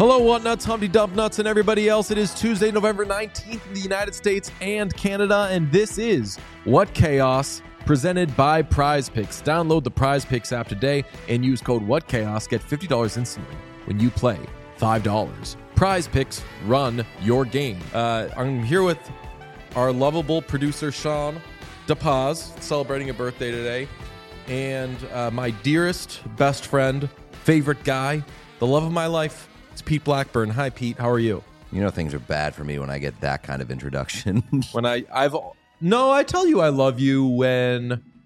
Hello, Whatnuts, Humpty Dump Nuts, and everybody else. It is Tuesday, November 19th in the United States and Canada, and this is What Chaos, presented by Prize Picks. Download the Prize Picks app today and use code WhatChaos. Get $50 instantly when you play $5. Prize Picks, run your game. I'm here with our lovable producer, Sean DePaz, celebrating a birthday today, and my dearest, best friend, favorite guy, the love of my life, it's Pete Blackburn. Hi, Pete. How are you? You know things are bad for me when I get that kind of introduction. I tell you I love you when...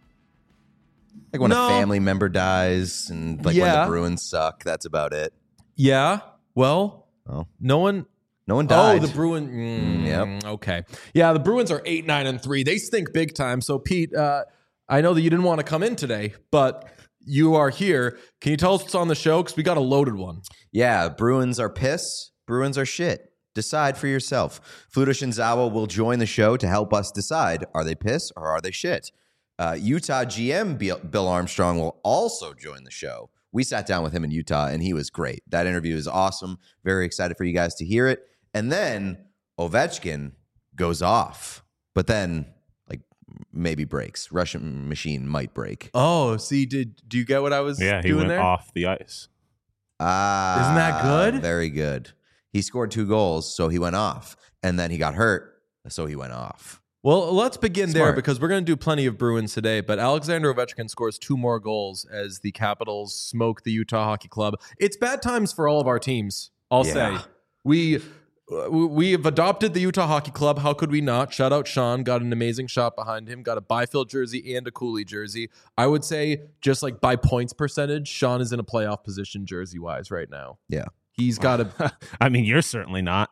Like when a family member dies and when the Bruins suck. That's about it. Yeah. Well, no one died. Oh, the Bruins. Yep. Okay. Yeah, the Bruins are 8-9-3. They stink big time. So, Pete, I know that you didn't want to come in today, but... you are here. Can you tell us what's on the show? Because we got a loaded one. Yeah, Bruins are piss. Bruins are shit. Decide for yourself. Fluto Shinzawa will join the show to help us decide, are they piss or are they shit? Utah GM Bill Armstrong will also join the show. We sat down with him in Utah, and he was great. That interview is awesome. Very excited for you guys to hear it. And then Ovechkin goes off. But then... maybe breaks. Russian machine might break. Oh, see, do you get what I was doing there? Yeah, he went off the ice. Isn't that good? Very good. He scored 2 goals, so he went off. And then he got hurt, so he went off. Well, let's begin there because we're going to do plenty of Bruins today. But Alexander Ovechkin scores 2 more goals as the Capitals smoke the Utah Hockey Club. It's bad times for all of our teams, I'll say. We have adopted the Utah Hockey Club. How could we not? Shout out Sean. Got an amazing shot behind him. Got a Byfield jersey and a Cooley jersey. I would say just like by points percentage, Sean is in a playoff position jersey-wise right now. Yeah. He's got a... I mean, you're certainly not.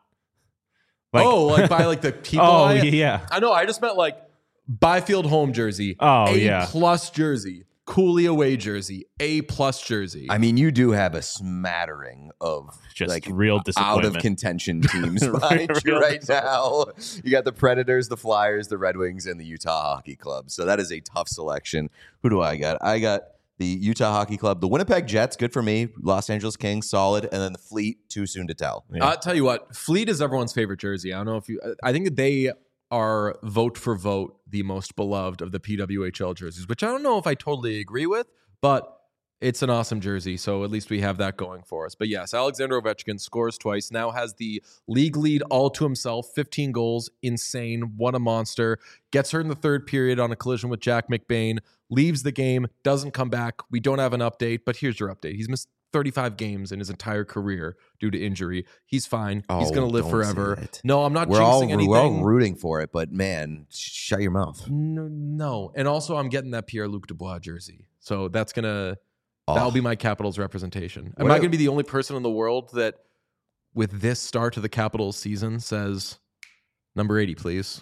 Like by like the people... yeah. I know. I just meant like Byfield home jersey. A+ jersey. Cooley away jersey, A+ jersey. I mean, you do have a smattering of just like real disappointment. Out of contention teams behind you right now. You got the Predators, the Flyers, the Red Wings, and the Utah Hockey Club. So that is a tough selection. Who do I got? I got the Utah Hockey Club, the Winnipeg Jets, good for me. Los Angeles Kings, solid, and then the Fleet, too soon to tell. Yeah. I'll tell you what, Fleet is everyone's favorite jersey. I don't know if you. I think that they are vote for vote the most beloved of the PWHL jerseys, which I don't know if I totally agree with, but it's an awesome jersey, so at least we have that going for us. But yes, Alexander Ovechkin scores twice, now has the league lead all to himself, 15 goals, insane, what a monster, gets hurt in the third period on a collision with Jack McBain, leaves the game, doesn't come back. We don't have an update, but here's your update. He's missed 35 games in his entire career due to injury. He's fine. He's going to live forever. No, I'm not jinxing anything. We're all rooting for it, but man, shut your mouth. No. And also, I'm getting that Pierre-Luc Dubois jersey. So that's going to... that'll be my Capitals representation. Am I going to be the only person in the world that, with this start to the Capitals season, says, number 80, please?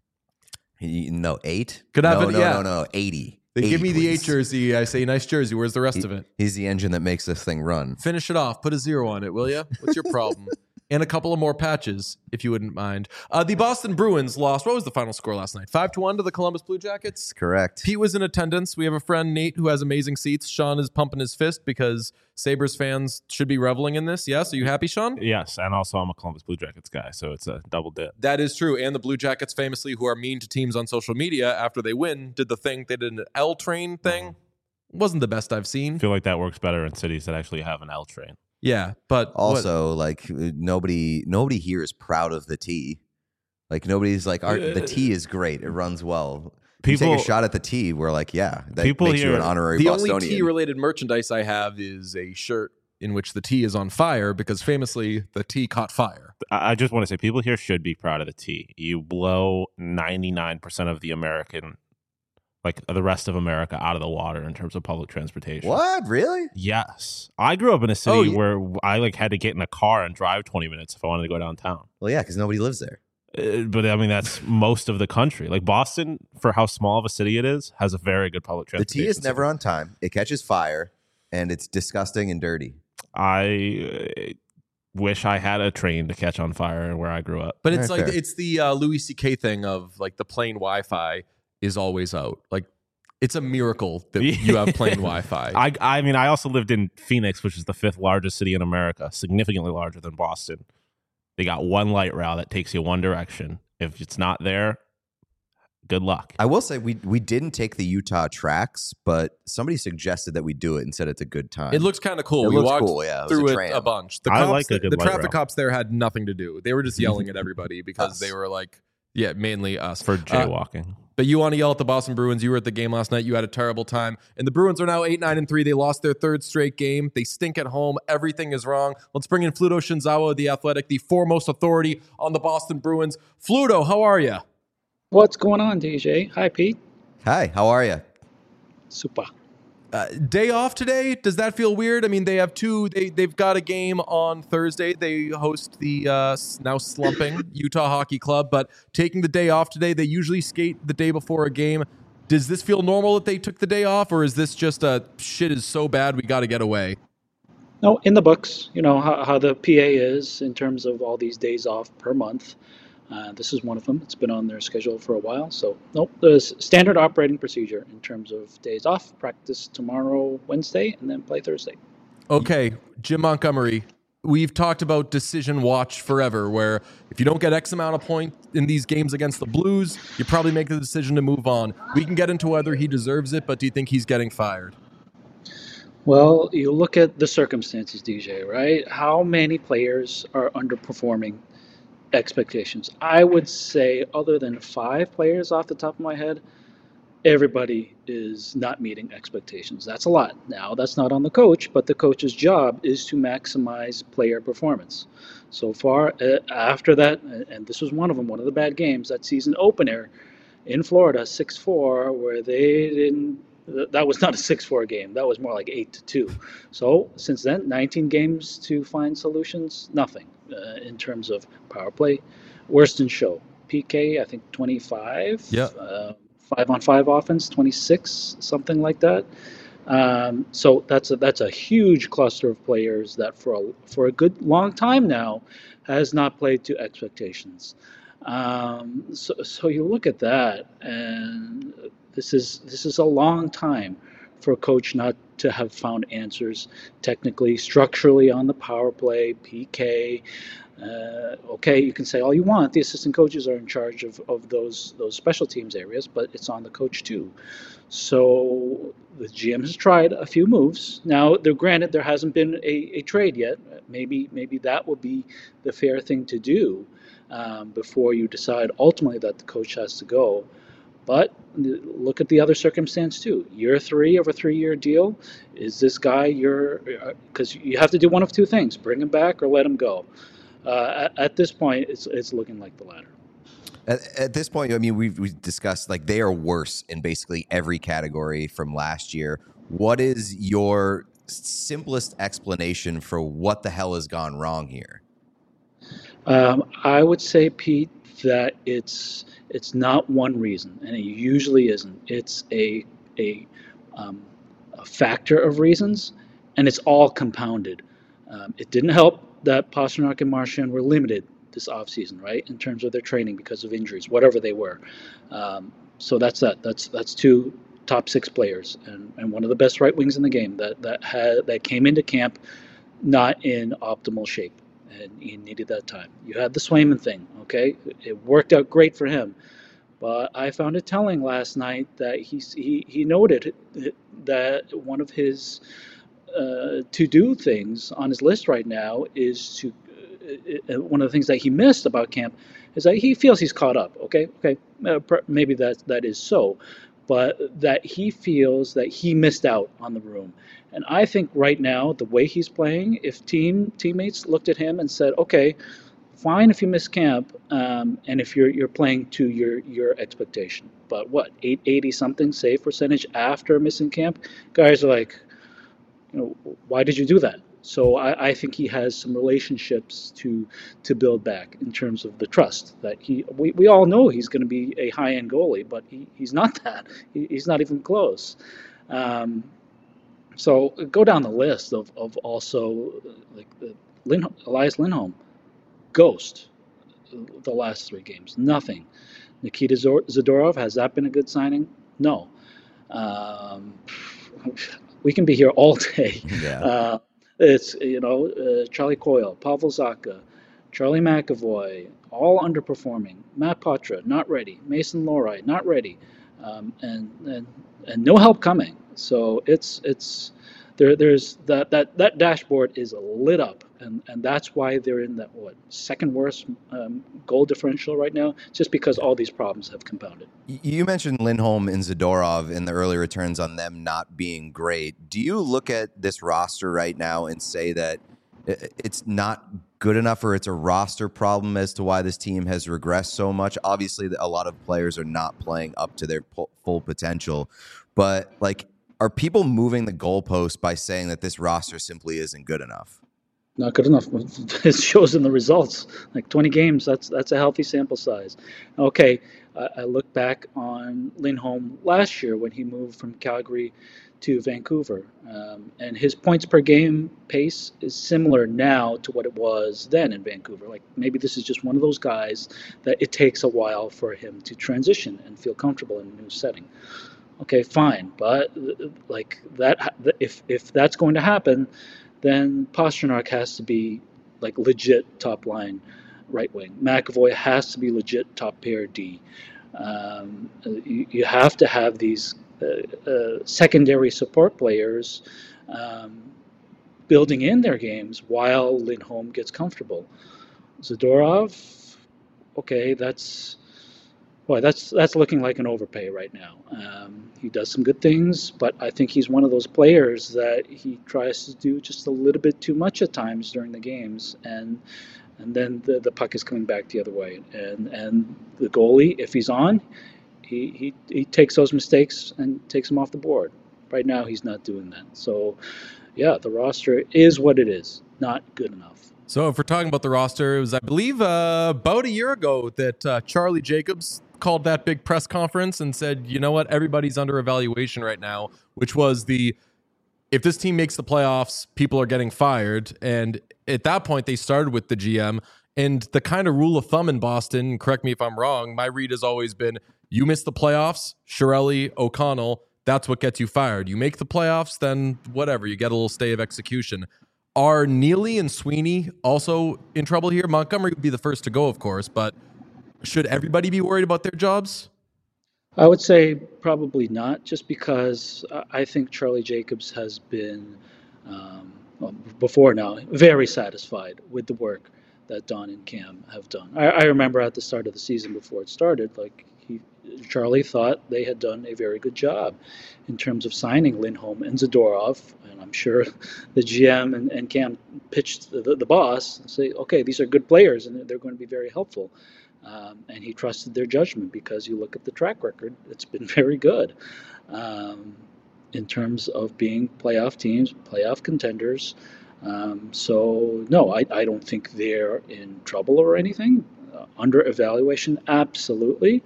No, 8? Could I have No, 80. They 80, give me the please. 8 jersey. I say, nice jersey. Where's the rest of it? He's the engine that makes this thing run. Finish it off. Put a 0 on it, will you? What's your problem? And a couple of more patches, if you wouldn't mind. The Boston Bruins lost. What was the final score last night? 5-1 to the Columbus Blue Jackets? Correct. Pete was in attendance. We have a friend, Nate, who has amazing seats. Sean is pumping his fist because Sabres fans should be reveling in this. Yes? Are you happy, Sean? Yes, and also I'm a Columbus Blue Jackets guy, so it's a double dip. That is true. And the Blue Jackets famously, who are mean to teams on social media after they win, did the thing. They did an L train thing. Wasn't the best I've seen. I feel like that works better in cities that actually have an L train. Yeah, but also like nobody here is proud of the T. Like nobody's like the T is great. It runs well. People take a shot at the T. We're like, yeah, that makes you an honorary Bostonian. The only T-related merchandise I have is a shirt in which the T is on fire because famously the T caught fire. I just want to say people here should be proud of the T. You blow 99% of the American, like the rest of America, out of the water in terms of public transportation. What? Really? Yes. I grew up in a city where I had to get in a car and drive 20 minutes if I wanted to go downtown. Well, yeah, because nobody lives there. But I mean, that's most of the country. Like Boston, for how small of a city it is, has a very good public transportation. The T is never on time. It catches fire, and it's disgusting and dirty. I wish I had a train to catch on fire where I grew up. But it's like it's the Louis C.K. thing of like the plane Wi-Fi is always out. Like It's a miracle that you have plain Wi-Fi. I mean, I also lived in Phoenix, which is the 5th largest city in America, significantly larger than Boston. They got one light rail that takes you one direction. If it's not there, good luck. I will say we didn't take the Utah tracks, but somebody suggested that we do it and said it's a good time. It looks kind of cool. It We looks walked cool, yeah. It was through a it tram. a bunch. I like a good the light traffic rail. cops there had nothing to do. They were just yelling at everybody because Us. they were like, yeah, mainly us. For jaywalking. But you want to yell at the Boston Bruins. You were at the game last night. You had a terrible time. And the Bruins are now 8-9-3. They lost their 3rd straight game. They stink at home. Everything is wrong. Let's bring in Fluto Shinzawa, the Athletic, the foremost authority on the Boston Bruins. Fluto, how are you? What's going on, DJ? Hi, Pete. Hi, how are you? Super. Day off today. Does that feel weird? I mean, they have they've got a game on Thursday. They host the now slumping Utah Hockey Club, but taking the day off today. They usually skate the day before a game. Does this feel normal that they took the day off, or is this just shit is so bad we got to get away? No, in the books, you know how the PA is in terms of all these days off per month. This is one of them. It's been on their schedule for a while. So, nope, the standard operating procedure in terms of days off, practice tomorrow, Wednesday, and then play Thursday. Okay, Jim Montgomery, we've talked about decision watch forever, where if you don't get X amount of points in these games against the Blues, you probably make the decision to move on. We can get into whether he deserves it, but do you think he's getting fired? Well, you look at the circumstances, DJ, right? How many players are underperforming expectations? I would say, other than 5 players off the top of my head, everybody is not meeting expectations. That's a lot. Now, that's not on the coach, but the coach's job is to maximize player performance. So far, after that, and this was one of them, one of the bad games, that season opener in Florida, 6-4, where they didn't. That was not a 6-4 game. That was more like 8-2. So since then, 19 games to find solutions, nothing in terms of power play. Worst in show. PK, I think 25. Yeah. 5-on-5 offense, 26, something like that. So that's a huge cluster of players that for a good long time now has not played to expectations. So you look at that, and this is a long time for a coach not to have found answers technically, structurally on the power play, PK. Okay, you can say all you want. The assistant coaches are in charge of those special teams areas, but it's on the coach too. So the GM has tried a few moves. Now, granted, there hasn't been a trade yet. Maybe that would be the fair thing to do before you decide ultimately that the coach has to go. But look at the other circumstance too. Year 3 of a 3-year deal. Is this guy because you have to do one of two things: bring him back or let him go. At this point, it's looking like the latter. At this point, I mean, we've discussed like they are worse in basically every category from last year. What is your simplest explanation for what the hell has gone wrong here? I would say, Pete, that it's not one reason, and it usually isn't. It's a factor of reasons, and it's all compounded. It didn't help that Pastrnak and Marchand were limited this offseason, right, in terms of their training because of injuries, whatever they were. So that's that. That's 2 top 6 players, and one of the best right wings in the game that came into camp not in optimal shape. And he needed that time. You had the Swayman thing, okay? It worked out great for him. But I found it telling last night that he noted that one of his to-do things on his list right now is to one of the things that he missed about camp is that he feels he's caught up. Okay, maybe that is so, but that he feels that he missed out on the room. And I think right now, the way he's playing, if teammates looked at him and said, okay, fine if you miss camp, and if you're playing to your expectation, but what, 880 something save percentage after missing camp, guys are like, why did you do that? So I think he has some relationships to build back in terms of the trust that we all know he's going to be a high-end goalie, but he's not that. He's not even close. So go down the list of also like Elias Lindholm, ghost the last 3 games, nothing. Nikita Zadorov, has that been a good signing? No. Um, we can be here all day. Yeah. It's Charlie Coyle, Pavel Zacha, Charlie McAvoy, all underperforming. Matt Poitras not ready. Mason Lohrei not ready, and no help coming. So there's that dashboard is lit up, and that's why they're in that second worst goal differential right now, just because all these problems have compounded. You mentioned Lindholm and Zadorov in the early returns on them not being great. Do you look at this roster right now and say that it's not good enough, or it's a roster problem as to why this team has regressed so much? Obviously, a lot of players are not playing up to their full potential, but are people moving the goalpost by saying that this roster simply isn't good enough? Not good enough. It shows in the results. Like 20 games, that's a healthy sample size. Okay, I look back on Lindholm last year when he moved from Calgary to Vancouver, and his points per game pace is similar now to what it was then in Vancouver. Like maybe this is just one of those guys that it takes a while for him to transition and feel comfortable in a new setting. Okay, fine, but like that, if that's going to happen, then Pastrnak has to be like legit top line right wing. McAvoy has to be legit top pair D. You have to have these secondary support players building in their games while Lindholm gets comfortable. Zadorov, okay, that's looking like an overpay right now. He does some good things, but I think he's one of those players that he tries to do just a little bit too much at times during the games, and then the puck is coming back the other way. And the goalie, if he's on, he takes those mistakes and takes them off the board. Right now, he's not doing that. So, yeah, the roster is what it is, not good enough. So if we're talking about the roster, it was, I believe, about a year ago that Charlie Jacobs called that big press conference and said, you know what, everybody's under evaluation right now, which was if this team makes the playoffs, people are getting fired. And at that point, they started with the GM. And the kind of rule of thumb in Boston, correct me if I'm wrong, my read has always been, you miss the playoffs, Chiarelli, O'Connell, that's what gets you fired. You make the playoffs, then whatever, you get a little stay of execution. Are Neely and Sweeney also in trouble here? Montgomery would be the first to go, of course, but should everybody be worried about their jobs? I would say probably not, just because I think Charlie Jacobs has been, before now, very satisfied with the work that Don and Cam have done. I remember at the start of the season before it started, Charlie thought they had done a very good job in terms of signing Lindholm and Zadorov, and I'm sure the GM and Cam pitched the boss and say, okay, these are good players and they're going to be very helpful. And he trusted their judgment because you look at the track record, it's been very good in terms of being playoff teams, playoff contenders. So, no, I don't think they're in trouble or anything. Under evaluation, absolutely.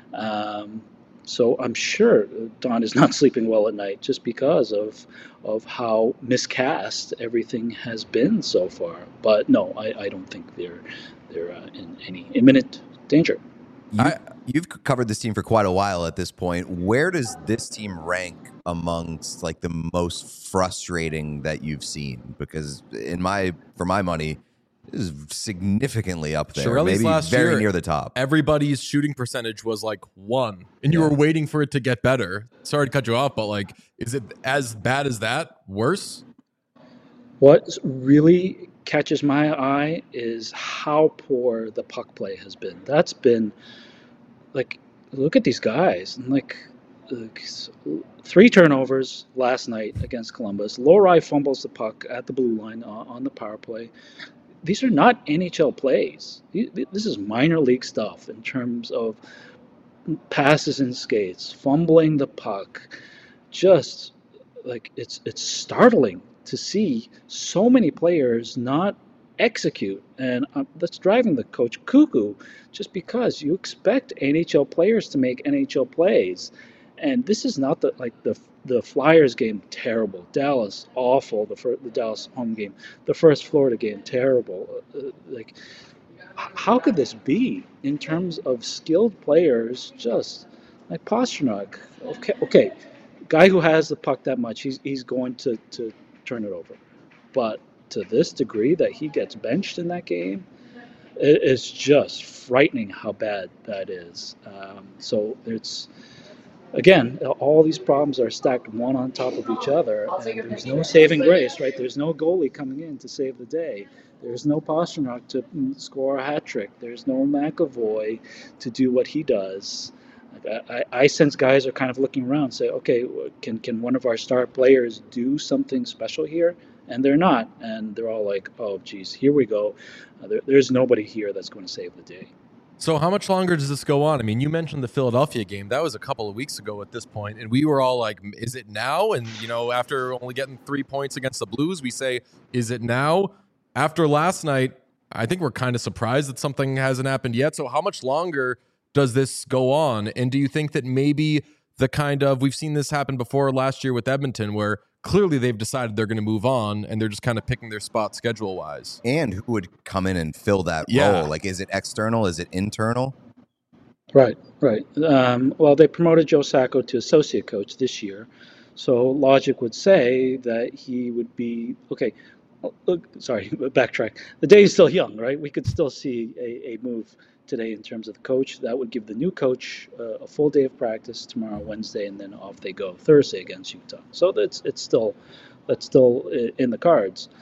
So I'm sure Don is not sleeping well at night just because of how miscast everything has been so far. But no, I don't think they're in any imminent danger. You've covered this team for quite a while at this point. Where does this team rank amongst the most frustrating that you've seen? Because for my money, this is significantly up there. Chiarelli's maybe very year, near the top. Everybody's shooting percentage was 1, and you were waiting for it to get better. Sorry to cut you off, but is it as bad as that? Worse? What really catches my eye is how poor the puck play has been. That's been look at these guys, and 3 turnovers last night against Columbus. Lohrei fumbles the puck at the blue line on the power play. These are not NHL plays. This is minor league stuff in terms of passes and skates, fumbling the puck. Just it's startling to see so many players not execute, and that's driving the coach cuckoo, just because you expect NHL players to make NHL plays. And this is not the Flyers game, terrible. Dallas, awful. The Dallas home game. The first Florida game, terrible. How could this be in terms of skilled players? Just like Pastrnak. Okay. guy who has the puck that much, he's going to turn it over. But to this degree that he gets benched in that game, it's just frightening how bad that is. So it's, again, all these problems are stacked one on top of each other, and there's no saving grace, right? There's no goalie coming in to save the day. There's no Pastrnak to score a hat trick. There's no McAvoy to do what he does. I sense guys are kind of looking around and say, okay, can one of our star players do something special here? And they're not. And they're all like, oh, geez, here we go. There's nobody here that's going to save the day. So how much longer does this go on? I mean, you mentioned the Philadelphia game. That was a couple of weeks ago at this point, and we were all like, is it now? And, after only getting 3 points against the Blues, we say, is it now? After last night, I think we're kind of surprised that something hasn't happened yet. So how much longer does this go on? And do you think that maybe we've seen this happen before last year with Edmonton, where clearly they've decided they're going to move on and they're just kind of picking their spot schedule-wise? And who would come in and fill that Yeah. role? Like, is it external? Is it internal? Right. Well, they promoted Joe Sacco to associate coach this year. So logic would say that he would be, okay, backtrack. The day is still young, right? We could still see a move today in terms of the coach. That would give the new coach a full day of practice tomorrow, Wednesday, and then off they go Thursday against Utah. So that's still in the cards.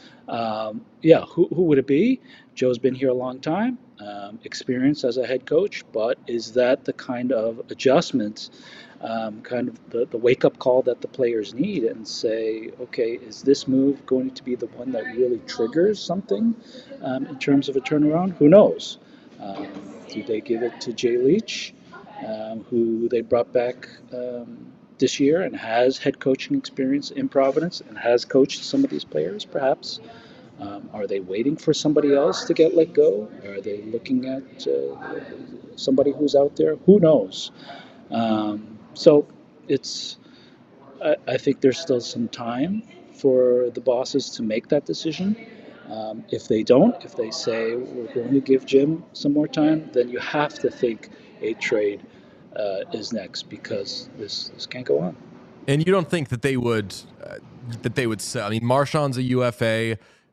Who would it be? Joe's been here a long time, experience as a head coach, but is that the kind of adjustment, kind of the wake-up call that the players need and say, okay, is this move going to be the one that really triggers something in terms of a turnaround? Who knows? Do they give it to Jay Leach, who they brought back this year and has head coaching experience in Providence and has coached some of these players, perhaps? Are they waiting for somebody else to get let go? Are they looking at somebody who's out there? Who knows? So I think there's still some time for the bosses to make that decision. If they don't, if they say we're going to give Jim some more time, then you have to think a trade is next, because this can't go on. And you don't think that they would sell? I mean, Marchand's a UFA.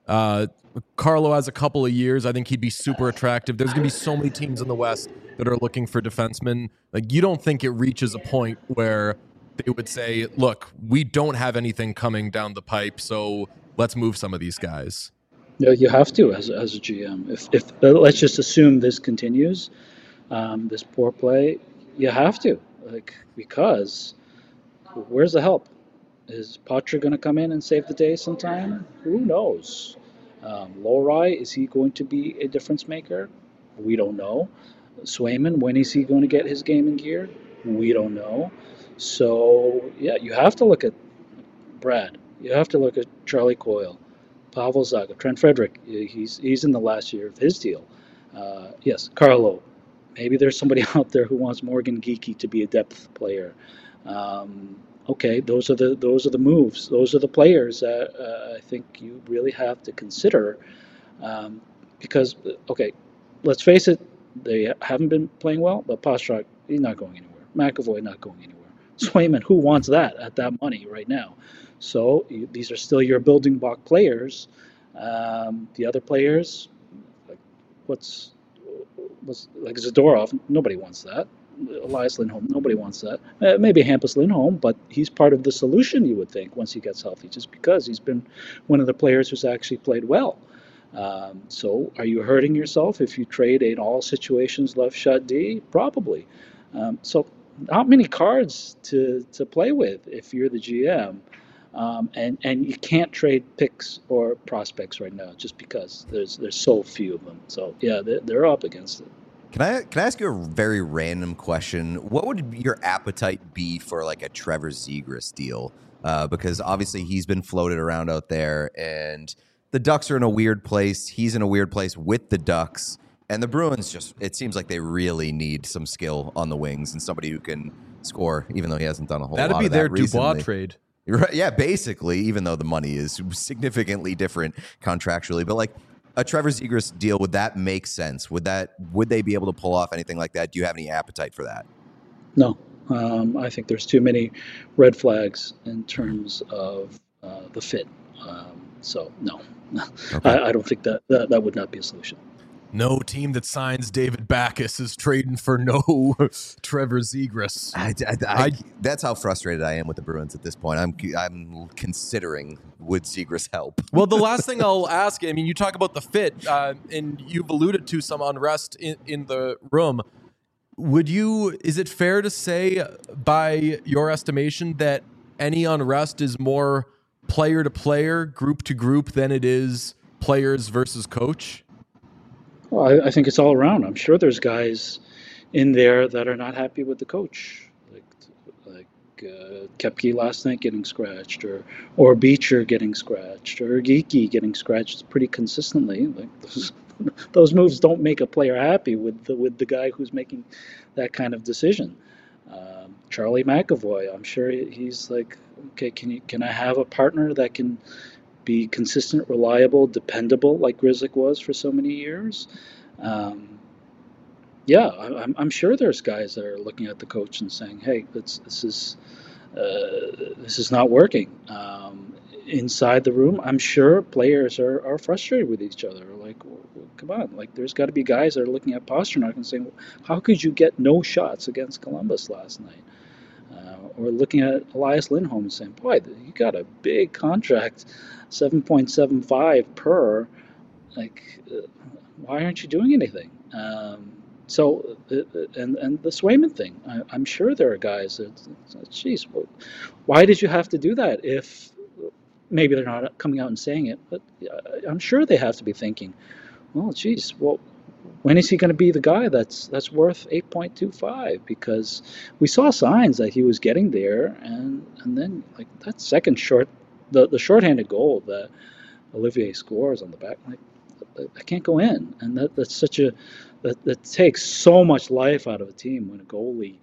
Carlo has a couple of years. I think he'd be super attractive. There's going to be so many teams in the West that are looking for defensemen. Like, you don't think it reaches a point where they would say, look, we don't have anything coming down the pipe, so let's move some of these guys? Yeah, you have to as a GM. If let's just assume this continues, this poor play, you have to, because where's the help? Is Poitras going to come in and save the day sometime? Who knows? Lohrei, is he going to be a difference maker? We don't know. Swayman, when is he going to get his game in gear? We don't know. So, yeah, you have to look at Brad. You have to look at Charlie Coyle, Pavel Zaga, Trent Frederick. He's in the last year of his deal. Yes, Carlo. Maybe there's somebody out there who wants Morgan Geekie to be a depth player. Okay, those are the moves. Those are the players that I think you really have to consider, because, okay, let's face it, they haven't been playing well, but Pastrnak, he's not going anywhere. McAvoy not going anywhere. Swayman, who wants that at that money right now? So these are still your building block players. The other players, what's like Zadorov, nobody wants that. Elias Lindholm, nobody wants that. Maybe Hampus Lindholm, but he's part of the solution, you would think, once he gets healthy, just because he's been one of the players who's actually played well. So are you hurting yourself if you trade an all situations left shot D? Probably. So not many cards to play with if you're the GM. And you can't trade picks or prospects right now just because there's so few of them. So yeah, they're up against it. Can I ask you a very random question? What would your appetite be for like a Trevor Zegras deal? Because obviously he's been floated around out there, and the Ducks are in a weird place. He's in a weird place with the Ducks, and the Bruins it seems like they really need some skill on the wings and somebody who can score, even though he hasn't done a whole lot of that recently. That'd be their Dubois trade. Right, yeah, basically, even though the money is significantly different contractually. But like a Trevor Zegras deal, would that make sense? Would they be able to pull off anything like that? Do you have any appetite for that? No, I think there's too many red flags in terms of the fit. So no, Okay. I don't think that would not be a solution. No team that signs David Backus is trading for no Trevor Zegras. That's how frustrated I am with the Bruins at this point. I'm considering would Zegras help? Well, the last thing I'll ask, I mean, you talk about the fit, and you've alluded to some unrest in the room. Is it fair to say, by your estimation, that any unrest is more player to player, group to group than it is players versus coach? Well, I think it's all around. I'm sure there's guys in there that are not happy with the coach, like Koepke last night getting scratched, or Beecher getting scratched, or Geekie getting scratched pretty consistently. Like those moves don't make a player happy with the guy who's making that kind of decision. Charlie McAvoy, I'm sure he's like, okay, can I have a partner that can be consistent, reliable, dependable, like Grzelcyk was for so many years? Yeah, I'm sure there's guys that are looking at the coach and saying, "Hey, this is not working." Inside the room, I'm sure players are frustrated with each other. Like, come on, like there's got to be guys that are looking at Pastrnak and saying, "How could you get no shots against Columbus last night?" Or looking at Elias Lindholm and saying, "Boy, you got a big contract, 7.75 per. Like, why aren't you doing anything?" So, and the Swayman thing, I'm sure there are guys that, geez, why did you have to do that? If maybe they're not coming out and saying it, but I'm sure they have to be thinking, well, geez, well, when is he going to be the guy that's worth 8.25? Because we saw signs that he was getting there, and then like that second the shorthanded goal that Olivier scores on the back, like that can't go in, and that's such a that takes so much life out of a team when a goalie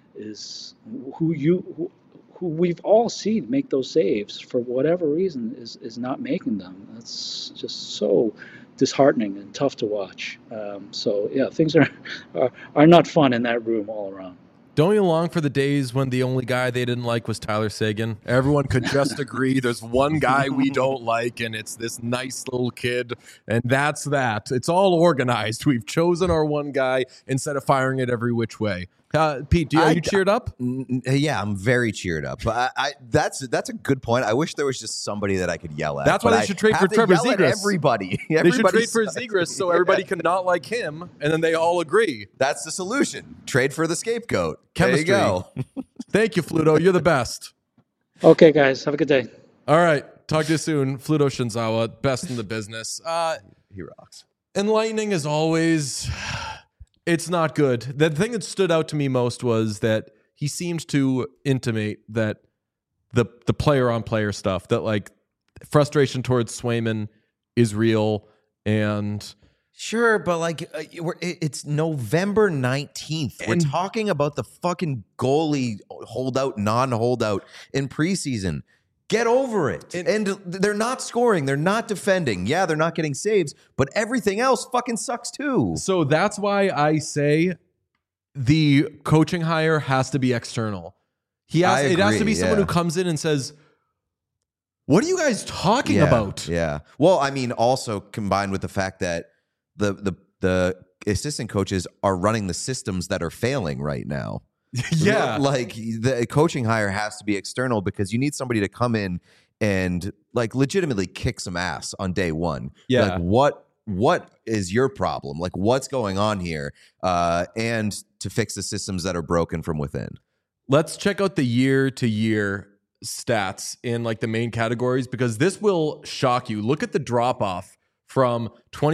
is who we've all seen make those saves for whatever reason is not making them. That's just so disheartening and tough to watch. So yeah, things are not fun in that room all around. Don't you long for the days when the only guy they didn't like was Tyler Seguin? Everyone could just agree there's one guy we don't like, and it's this nice little kid, and that's that. It's all organized. We've chosen our one guy instead of firing it every which way. Pete, are you cheered up? Yeah, I'm very cheered up. That's a good point. I wish there was just somebody that I could yell at. That's why they should trade for Trevor Zegras. Everybody they should trade for Zegras so everybody can not like him, and then they all agree. That's the solution. Trade for the scapegoat. Chemistry. There you go. Thank you, Fluto. You're the best. Okay, guys. Have a good day. All right. Talk to you soon. Fluto Shinzawa, best in the business. He rocks. Enlightening as always. It's not good. The thing that stood out to me most was that he seemed to intimate that the player-on-player stuff, that like frustration towards Swayman is real, and sure, but like it's November 19th. We're talking about the fucking goalie holdout, non-holdout in preseason. Get over it. And they're not scoring. They're not defending. Yeah, they're not getting saves, but everything else fucking sucks too. So that's why I say the coaching hire has to be external. It has to be someone who comes in and says, "What are you guys talking about?" Yeah. Well, I mean, also combined with the fact that the assistant coaches are running the systems that are failing right now. Yeah. Like the coaching hire has to be external because you need somebody to come in and like legitimately kick some ass on day one. Yeah. Like what is your problem? Like what's going on here? And to fix the systems that are broken from within. Let's check out the year-to-year stats in like the main categories, because this will shock you. Look at the drop-off from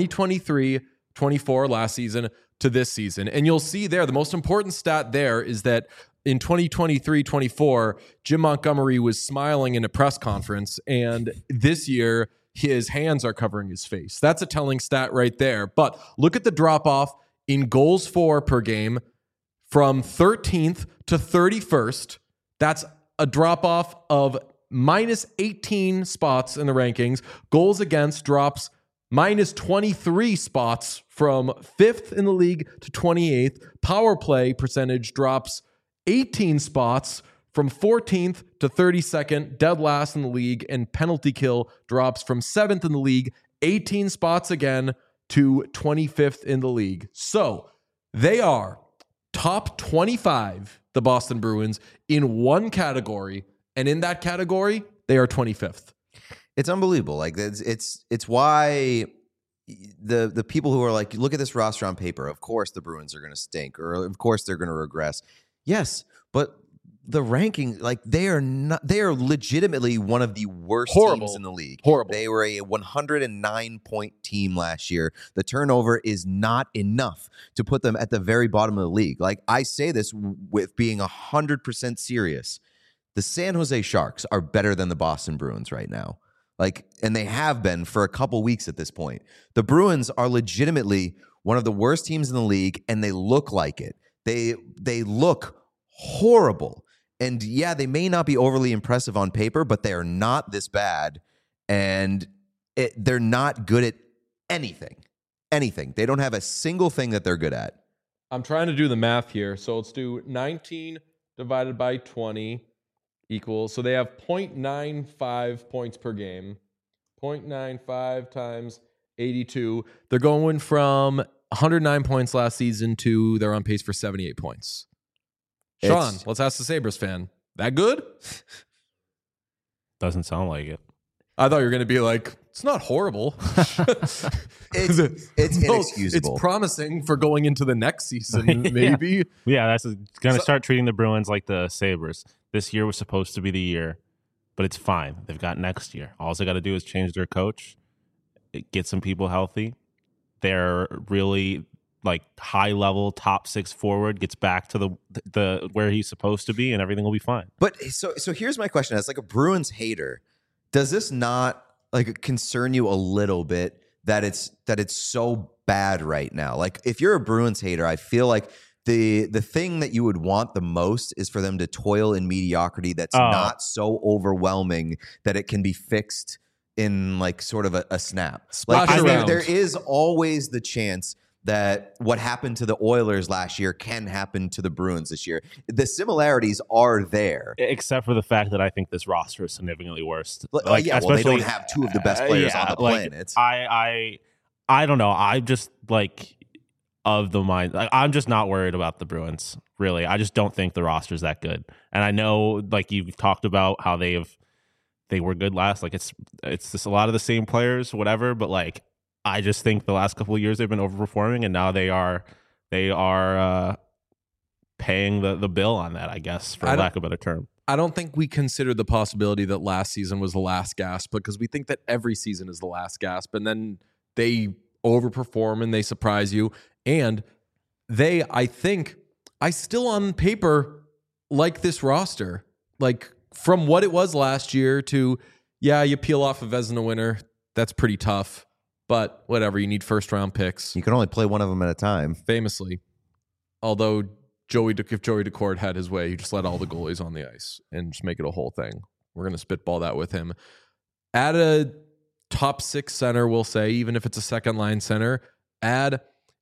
2023-24 last season to this season. And you'll see there, the most important stat there is that in 2023-24, Jim Montgomery was smiling in a press conference, and this year his hands are covering his face. That's a telling stat right there. But look at the drop-off in goals for per game from 13th to 31st. That's a drop-off of minus 18 spots in the rankings. Goals against drops minus 23 spots from 5th in the league to 28th. Power play percentage drops 18 spots from 14th to 32nd, dead last in the league, and penalty kill drops from 7th in the league, 18 spots again to 25th in the league. So they are top 25, the Boston Bruins, in one category, and in that category, they are 25th. It's unbelievable. Like it's why the people who are like, look at this roster on paper. Of course, the Bruins are going to stink, or of course they're going to regress. Yes, but the ranking, like they are legitimately one of the worst teams in the league. Horrible. They were a 109-point team last year. The turnover is not enough to put them at the very bottom of the league. Like I say this with being 100% serious. The San Jose Sharks are better than the Boston Bruins right now. Like, and they have been for a couple weeks at this point. The Bruins are legitimately one of the worst teams in the league, and they look like it. They look horrible. And yeah, they may not be overly impressive on paper, but they are not this bad. And they're not good at anything. Anything. They don't have a single thing that they're good at. I'm trying to do the math here. So let's do 19 divided by 20 equals. So they have 0.95 points per game. 0.95 times 82. They're going from 109 points last season to they're on pace for 78 points. Sean, let's ask the Sabres fan. That good? Doesn't sound like it. I thought you were going to be like, it's not horrible. It's inexcusable. It's promising for going into the next season, maybe. Yeah, that's going to start treating the Bruins like the Sabres. This year was supposed to be the year, but it's fine. They've got next year. All they got to do is change their coach, get some people healthy. They're really like high level top 6 forward, gets back to the where he's supposed to be, and everything will be fine. But so here's my question: as like a Bruins hater, does this not like concern you a little bit that it's so bad right now? Like if you're a Bruins hater, I feel like the thing that you would want the most is for them to toil in mediocrity that's not so overwhelming that it can be fixed in like sort of a snap. Like there is always the chance that what happened to the Oilers last year can happen to the Bruins this year. The similarities are there. Except for the fact that I think this roster is significantly worse. Like, yeah, well, they don't have two of the best players on the planet. I don't know. I'm just like of the mind. Like, I'm just not worried about the Bruins, really. I just don't think the roster's that good. And I know, like you've talked about how they were good last. Like it's just a lot of the same players, whatever. But like, I just think the last couple of years they've been overperforming, and now they are paying the bill on that, I guess, for lack of a better term. I don't think we consider the possibility that last season was the last gasp, because we think that every season is the last gasp, and then they overperform and they surprise you. And I still on paper like this roster, like from what it was last year to, yeah, you peel off a Vezina winner. That's pretty tough. But whatever, you need first-round picks. You can only play one of them at a time. Famously. Although if Joey Daccord had his way, he just let all the goalies on the ice and just make it a whole thing. We're going to spitball that with him. Add a top 6 center, we'll say, even if it's a second-line center. Add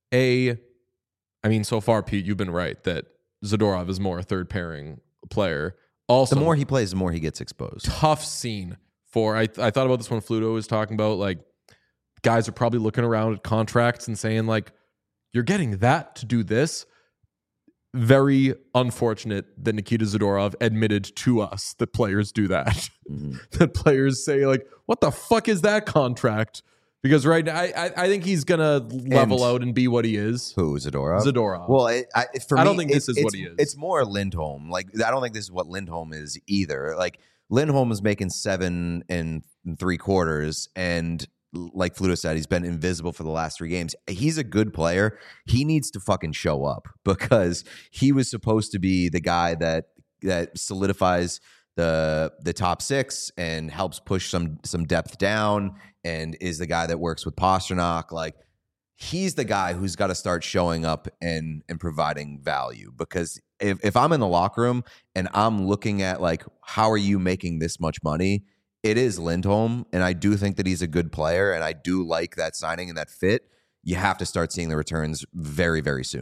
so far, Pete, you've been right that Zadorov is more a third-pairing player. Also, the more he plays, the more he gets exposed. Tough scene for... I thought about this when Fluto was talking about, like, guys are probably looking around at contracts and saying, like, you're getting that to do this. Very unfortunate that Nikita Zadorov admitted to us that players do that. Mm-hmm. That players say, like, what the fuck is that contract? Because right now, I think he's going to level out and be what he is. Who, Zadorov? Zadorov. Well, I don't think this is what he is. It's more Lindholm. Like, I don't think this is what Lindholm is either. Like, Lindholm is making 7 3/4, and like Fluto said, he's been invisible for the last 3 games. He's a good player. He needs to fucking show up, because he was supposed to be the guy that solidifies the top 6 and helps push some depth down, and is the guy that works with Pastrnak. Like, he's the guy who's got to start showing up and providing value, because if I'm in the locker room and I'm looking at, like, how are you making this much money? It is Lindholm, and I do think that he's a good player, and I do like that signing and that fit. You have to start seeing the returns very, very soon.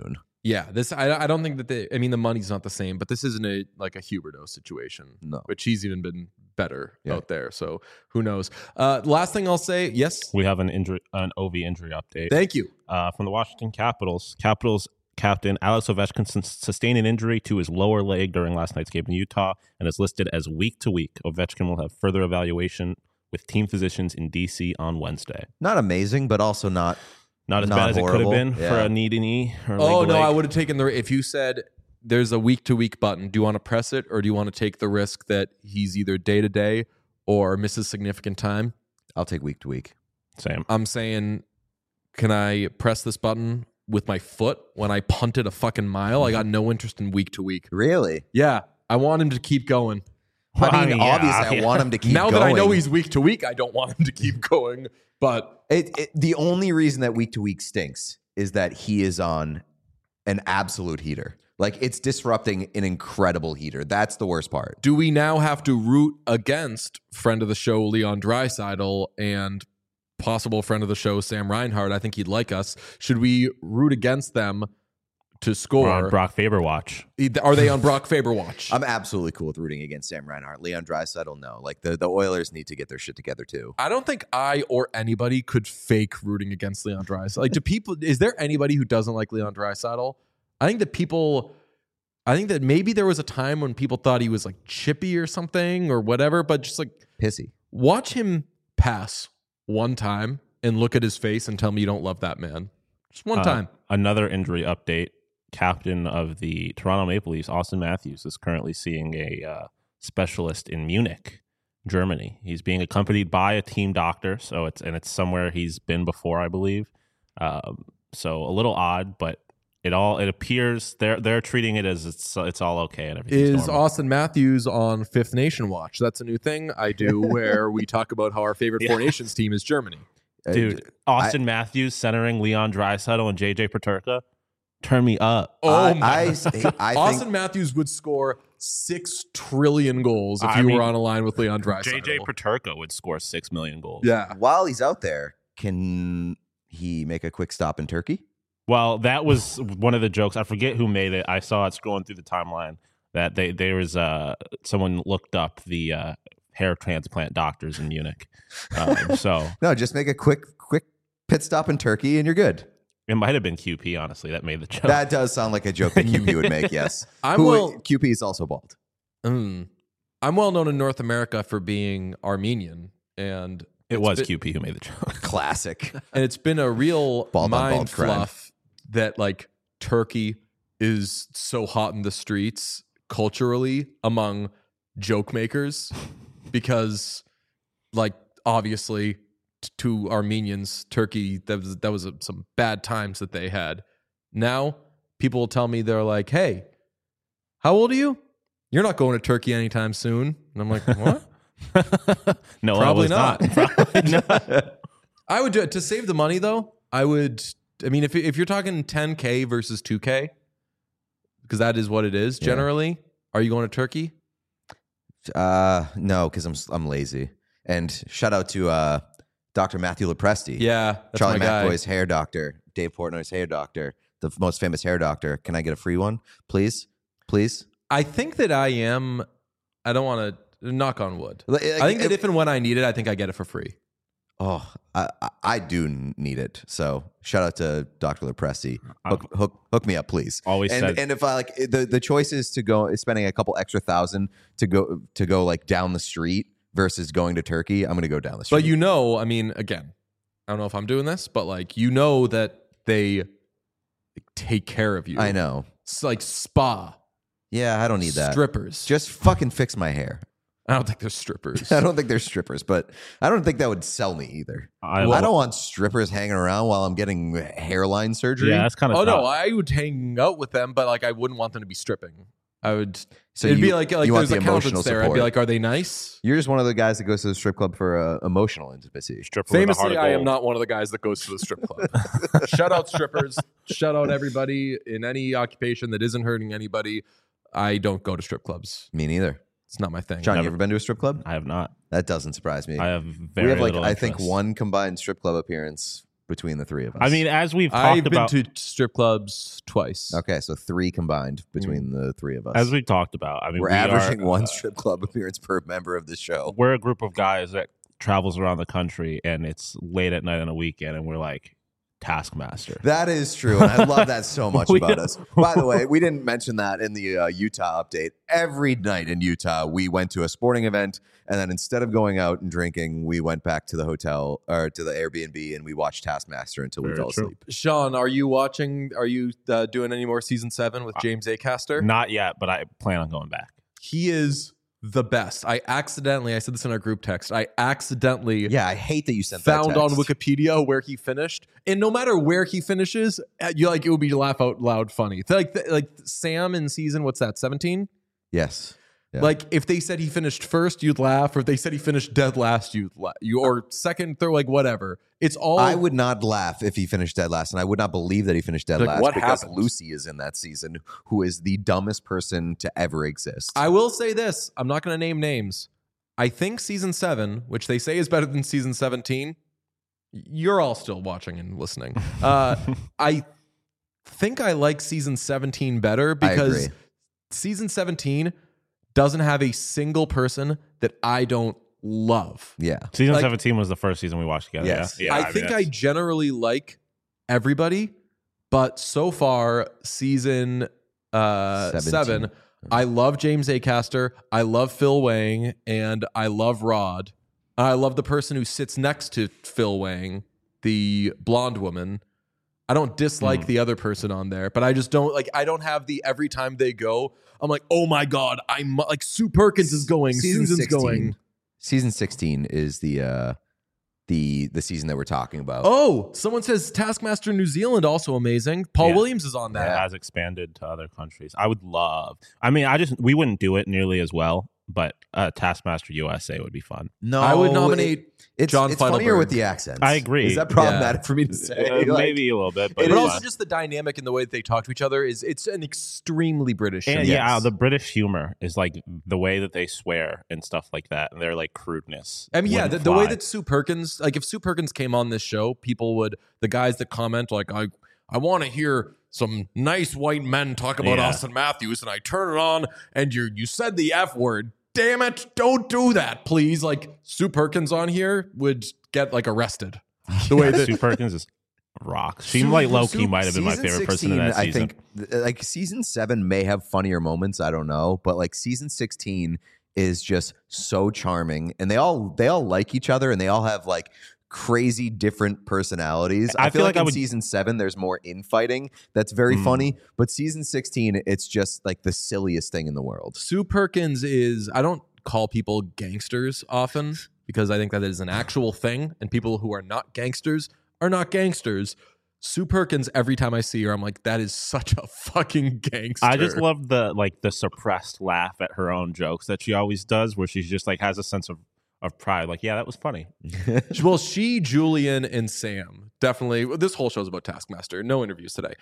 Yeah, I don't think that the money's not the same, but this isn't a Huberdeau situation. No. Which he's even been better Yeah. out there. So who knows? Last thing I'll say, yes. We have an OV injury update. Thank you. From the Washington Capitals. Capitals captain Alex Ovechkin sustained an injury to his lower leg during last night's game in Utah and is listed as week to week. Ovechkin will have further evaluation with team physicians in DC on Wednesday. Not amazing, but also not as bad as it could have been Yeah. for a knee to knee. Oh no, I would have taken if you said there's a week to week button. Do you want to press it, or do you want to take the risk that he's either day to day or misses significant time? I'll take week to week. Same. I'm saying, can I press this button with my foot when I punted a fucking mile? I got no interest in week to week. Really? Yeah, I want him to keep going. I mean, obviously, I want him to keep Now going. that I know he's week to week, I don't want him to keep going. But the only reason that week to week stinks is that he is on an absolute heater. Like, it's disrupting an incredible heater. That's the worst part. do we now have to root against friend of the show Leon Draisaitl and possible friend of the show Sam Reinhart? I think he'd like us. Should we root against them to We're score? on Brock Faber watch. Are they on Brock Faber watch? I'm absolutely cool with rooting against Sam Reinhart. Leon Draisaitl, no. Like, the Oilers need to get their shit together, too. I don't think I or anybody could fake rooting against Leon Draisaitl. Like, is there anybody who doesn't like Leon Draisaitl? I think that maybe there was a time when people thought he was like chippy or something or whatever, but just like Pissy. watch him pass one time and look at his face and tell me you don't love that man. Just one time. Another injury update. Captain of the Toronto Maple Leafs, Austin Matthews, is currently seeing a specialist in Munich, Germany. He's being accompanied by a team doctor, so it's somewhere he's been before, I believe. So a little odd, but it appears they're treating it as it's all okay and everything. Is Austin Matthews on Fifth Nation Watch? That's a new thing I do where we talk about how our favorite Four Nations team is Germany. Dude, Austin Matthews centering Leon Draisaitl and JJ Peterka. Turn me up. Oh my! I think Austin Matthews would score 6 trillion goals if were on a line with Leon Draisaitl. JJ Peterka would score 6 million goals. Yeah. while he's out there, can he make a quick stop in Turkey? Well, that was one of the jokes. I forget who made it. I saw it scrolling through the timeline that there was someone looked up the hair transplant doctors in Munich. So No, just make a quick pit stop in Turkey and you're good. it might have been QP, honestly, that made the joke. That does sound like a joke that QP would make, yes. QP is also bald. I'm well known in North America for being Armenian, and it was QP who made the joke. Classic. and it's been a real Bald on mind bald crime. fluff that like Turkey is so hot in the streets culturally among joke makers because like obviously to Armenians, Turkey, that was some bad times that they had. Now people will tell me, they're like, hey, how old are you? You're not going to Turkey anytime soon. And I'm like, what? No, Probably I was not. Probably not. I would do it to save the money though. If you're talking 10K versus 2K, because that is what it is generally. Are you going to Turkey? No, because I'm lazy. And shout out to Dr. Matthew Lepresti. Yeah, that's Charlie my guy. McAvoy's hair doctor, Dave Portnoy's hair doctor, the most famous hair doctor. Can I get a free one, please? Please. I think that I am. I don't want to knock on wood. Like, I think that if and when I need it, I think I get it for free. Oh, I do need it. So shout out to Dr. Lepresti. Hook me up, please. Always said. And if I like the choice is to go spending a couple extra $1,000 to go like down the street versus going to Turkey, I'm going to go down the street. But again, I don't know if I'm doing this, but like that they take care of you. I know. It's like spa. Yeah, I don't need that. Strippers. Just fucking fix my hair. I don't think they're strippers. I don't think they're strippers, but I don't think that would sell me either. I don't want strippers hanging around while I'm getting hairline surgery. Yeah, that's kind of. Oh no, I would hang out with them, but like I wouldn't want them to be stripping. I would. So it'd you- be like you want there's the emotional accountants there. I'd support. be like, are they nice? You're just one of the guys that goes to the strip club for emotional intimacy. stripper with a heart Famously, of I am gold. not one of the guys that goes to the strip club. Shout out strippers. Shout out everybody in any occupation that isn't hurting anybody. I don't go to strip clubs. Me neither. It's not my thing. John, you Never. ever been to a strip club? I have not. That doesn't surprise me. I have We very have like little I think interest. one combined strip club appearance between the three of us? I mean, as we've talked I've about, been to strip clubs twice. okay, so 3 combined between the three of us. as we've talked about, I mean, We're we averaging are, one strip club appearance per member of the show. We're a group of guys that travels around the country, and it's late at night on a weekend, and we're like Taskmaster. That is true, and I love that so much We- about us. By the way, we didn't mention that in the Utah update. Every night in Utah, we went to a sporting event, and then instead of going out and drinking, we went back to the hotel or to the Airbnb, and we watched Taskmaster until we Very fell true. asleep. Sean, are you watching? Are you doing any more season 7 with James Acaster? Not yet, but I plan on going back. He is the best. I said this in our group text. I accidentally Yeah, I hate that you sent found that on text. Wikipedia where he finished, and no matter where he finishes, you like it would be laugh out loud funny. Like Sam in season, what's that, 17? Yes. Yeah. Like if they said he finished first, you'd laugh, or if they said he finished dead last, you'd laugh. Or second, third, like whatever. It's all. I would not laugh if he finished dead last, and I would not believe that he finished dead Like, last what because happened? Lucy is in that season, who is the dumbest person to ever exist. I will say this. I'm not going to name names. I think season 7, which they say is better than season 17. You're all still watching and listening. I think I like season 17 better because agree. season 17 doesn't have a single person that I don't love. Yeah. Season Like- 17 was the first season we watched together. Yes. Yeah, I think I generally like everybody, but so far, season 7, I love James Acaster, I love Phil Wang, and I love Rod. I love the person who sits next to Phil Wang, the blonde woman. I don't dislike the other person on there, but I just don't like. I don't have the every time they go, I'm like, oh my god, I'm like Sue Perkins is going, Susan's going. Season 16 is the season that we're talking about. Oh, someone says Taskmaster New Zealand also amazing. Paul Yeah. Williams is on that. It has expanded to other countries. I would love. I mean, we wouldn't do it nearly as well, but Taskmaster USA would be fun. No, I would nominate it's John It's funnier Feidelberg. with the accents. I agree. Is that problematic for me to say? Like, Maybe a little bit, but But it's also fun. just the dynamic and the way that they talk to each other it's an extremely British show. And Yes. yeah, the British humor is like the way that they swear and stuff like that, and their like crudeness. I mean, yeah, wouldn't the way fly. that Sue Perkins, like if Sue Perkins came on this show, people would, the guys that comment, like, I want to hear some nice white men talk about Yeah. Austin Matthews, and I turn it on, and you said the F word. Damn it, don't do that, please. Like Sue Perkins on here would get like arrested. The way that Sue Perkins is rocks. She like low key might have been my Season favorite person in 16, that season. I think like season 7 may have funnier moments. I don't know, but like season 16 is just so charming, and they all like each other, and they all have like crazy different personalities. I feel like in season 7 there's more infighting that's very funny, but season 16 it's just like the silliest thing in the world. Sue Perkins is, I don't call people gangsters often because I think that is an actual thing, and people who are not gangsters are not gangsters. Sue Perkins, every time I see her, I'm like, that is such a fucking gangster. I just love the suppressed laugh at her own jokes that she always does, where she's just like has a sense of pride. Like, yeah, that was funny. Well, Julian, and Sam definitely. This whole show's about Taskmaster. No interviews today.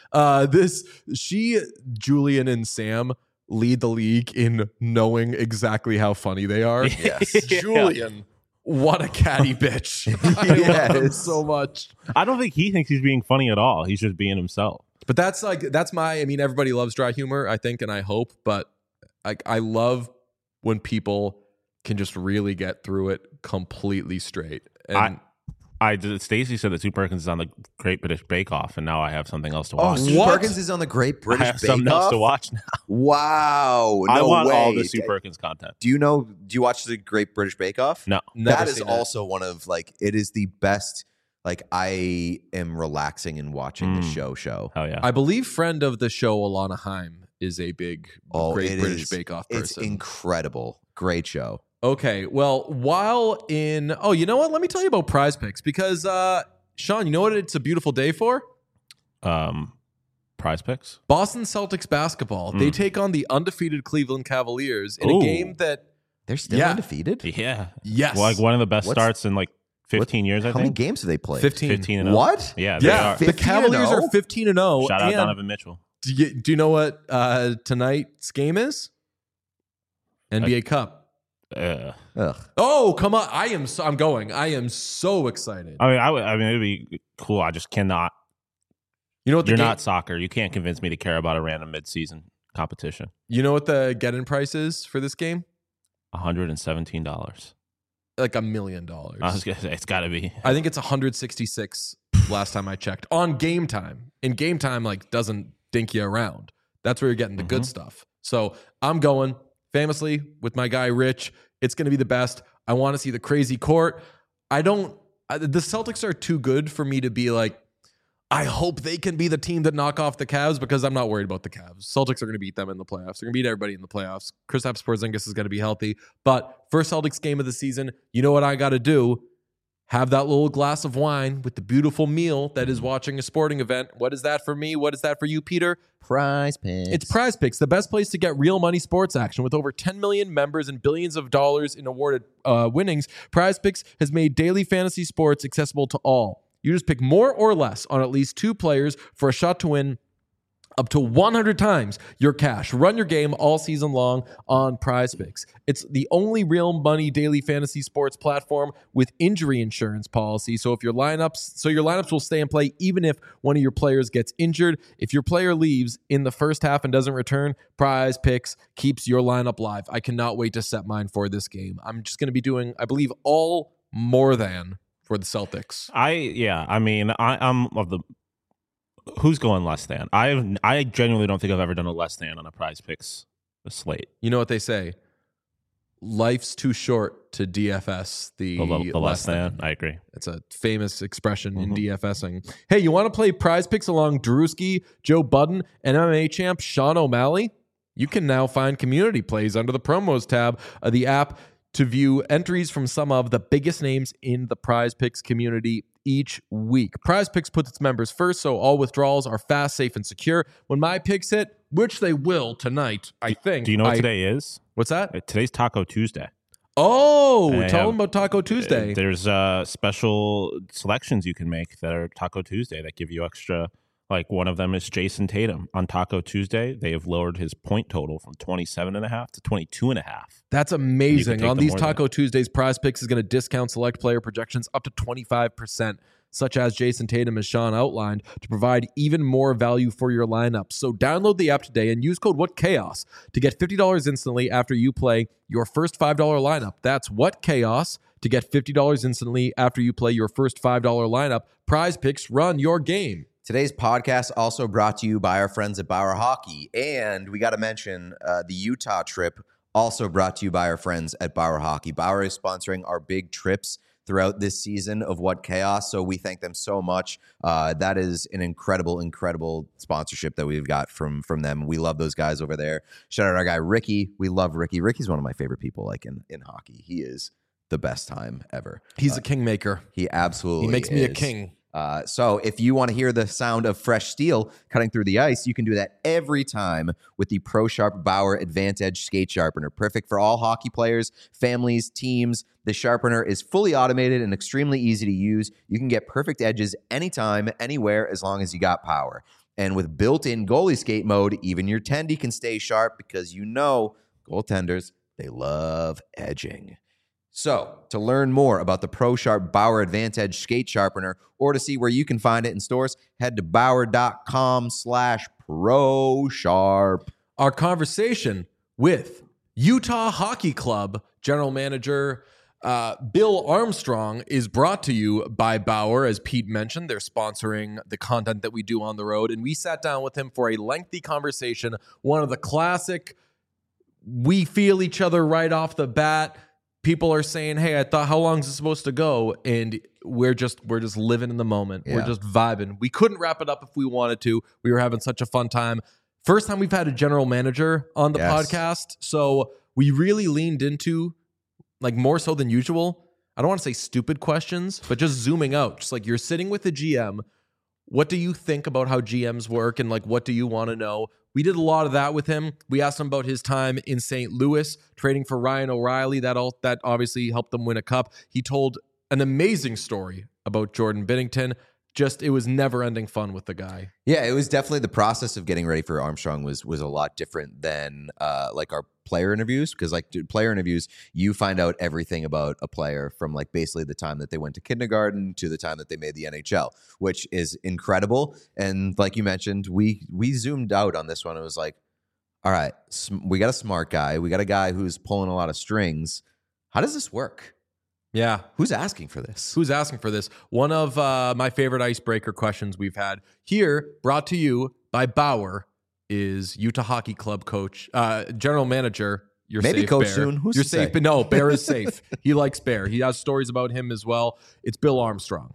Julian, and Sam lead the league in knowing exactly how funny they are. Yes. Julian, what a catty bitch! I love him Yes. so much. I don't think he thinks he's being funny at all. He's just being himself. But that's my. I mean, everybody loves dry humor, I think, and I hope. But I love when people can just really get through it completely straight. And Stacey said that Sue Perkins is on the Great British Bake Off, and now I have something else to Oh, watch. Sue What? Perkins is on the Great British I have Bake something else Off? to watch now. Wow. No I want way. all the Sue Perkins content. Do you watch the Great British Bake Off? No. never That is seen it. also one of like, it is the best. Like, I am relaxing and watching the show. Hell yeah. I believe friend of the show, Alana Haim, is a big Great it British is- Bake Off It's person. incredible. Great show. Okay, well, you know what? Let me tell you about Prize Picks because, Sean, you know what it's a beautiful day for? Prize Picks. Boston Celtics basketball. They take on the undefeated Cleveland Cavaliers in a Ooh. game that, They're still Yeah. undefeated? Yeah. yes. Like one of the best What's- starts in like 15 years, I How many think. games have they played? 15. 15 and 0. What? Yeah, they Yeah, are. the 15 and Cavaliers 0? are 15 and 0. Shout out and Donovan Mitchell. do you know what tonight's game is? NBA Cup. Ugh. Oh, come on. I'm going. I am so excited. I mean, it'd be cool. I just cannot. You know what? You're not soccer. You can't convince me to care about a random midseason competition. You know what the get-in price is for this game? $117. Like $1 million. I was gonna say it's got to be. I think it's 166 last time I checked on Game Time. And Game Time doesn't dink you around. That's where you're getting the good stuff. So I'm going famously with my guy Rich. It's going to be the best. I want to see the crazy court. The Celtics are too good for me to be like, I hope they can be the team that knock off the Cavs, because I'm not worried about the Cavs. Celtics are going to beat them in the playoffs. They're going to beat everybody in the playoffs. Kristaps Porzingis is going to be healthy. But first Celtics game of the season, you know what I got to do? Have that little glass of wine with the beautiful meal that is watching a sporting event. What is that for me? What is that for you, Peter? Prize Picks. It's Prize Picks, the best place to get real money sports action. With over 10 million members and billions of dollars in awarded winnings, Prize Picks has made daily fantasy sports accessible to all. You just pick more or less on at least 2 players for a shot to win up to 100 times your cash. Run your game all season long on Prize Picks. It's the only real money daily fantasy sports platform with injury insurance policy. So your lineups will stay in play even if one of your players gets injured. If your player leaves in the first half and doesn't return, Prize Picks keeps your lineup live. I cannot wait to set mine for this game. I'm just going to be doing, I believe, all more than for the Celtics. I'm of the who's going less than. I genuinely don't think I've ever done a less than on a Prize Picks slate. You know what they say? Life's too short to DFS the less than. I agree. It's a famous expression in DFSing. Hey, you want to play Prize Picks along Drewski, Joe Budden, and MMA champ Sean O'Malley? You can now find community plays under the promos tab of the app to view entries from some of the biggest names in the Prize Picks community each week. Prize Picks puts its members first, so all withdrawals are fast, safe, and secure. When my picks hit, which they will tonight, I think. Do you know what today is? What's that? Today's Taco Tuesday. Oh, tell them about Taco Tuesday. There's special selections you can make that are Taco Tuesday that give you extra. Like one of them is Jason Tatum. On Taco Tuesday, they have lowered his point total from 27.5 to 22.5. That's amazing. On these Taco Tuesdays, Prize Picks is going to discount select player projections up to 25%, such as Jason Tatum, as Sean outlined, to provide even more value for your lineup. So download the app today and use code WhatChaos to get $50 instantly after you play your first $5 lineup. That's WhatChaos to get $50 instantly after you play your first $5 lineup. Prize Picks, run your game. Today's podcast also brought to you by our friends at Bauer Hockey. And we got to mention the Utah trip, also brought to you by our friends at Bauer Hockey. Bauer is sponsoring our big trips throughout this season of What Chaos, so we thank them so much. That is an incredible sponsorship that we've got from them. We love those guys over there. Shout out our guy Ricky. We love Ricky. Ricky's one of my favorite people in hockey. He is the best time ever. He's a kingmaker. He absolutely He makes me a king. So if you want to hear the sound of fresh steel cutting through the ice, you can do that every time with the Pro Sharp Bauer Advantage Skate Sharpener. Perfect for all hockey players, families, teams. The sharpener is fully automated and extremely easy to use. You can get perfect edges anytime, anywhere, as long as you got power. And with built-in goalie skate mode, even your tendy can stay sharp because goaltenders, they love edging. So, to learn more about the Pro Sharp Bauer Advantage Skate Sharpener or to see where you can find it in stores, head to bauer.com/ProSharp. Our conversation with Utah Hockey Club General Manager Bill Armstrong is brought to you by Bauer. As Pete mentioned, they're sponsoring the content that we do on the road, and we sat down with him for a lengthy conversation, one of the classic, we feel each other right off the bat. People are saying, hey, I thought, how long is it supposed to go? And we're just living in the moment. Yeah. We're just vibing. We couldn't wrap it up if we wanted to. We were having such a fun time. First time we've had a general manager on the podcast. So we really leaned into, like, more so than usual, I don't want to say stupid questions, but just zooming out. Just like, you're sitting with the GM. What do you think about how GMs work? And like, what do you want to know? We did a lot of that with him. We asked him about his time in St. Louis, trading for Ryan O'Reilly. That obviously helped them win a cup. He told an amazing story about Jordan Binnington. just, it was never ending fun with the guy. Yeah, it was definitely the process of getting ready for Armstrong was a lot different than like our player interviews, because like player interviews, you find out everything about a player from like basically the time that they went to kindergarten to the time that they made the NHL, which is incredible. And like you mentioned, we zoomed out on this one. It was like, all right, we got a smart guy, we got a guy who's pulling a lot of strings. How does this work? Yeah. Who's asking for this? Who's asking for this? One of my favorite icebreaker questions we've had here, brought to you by Bauer, is Utah Hockey Club coach, general manager. You're Maybe safe, coach Bear. soon. Who's You're to safe, say? but no, Bear is safe. He likes Bear. He has stories about him as well. It's Bill Armstrong.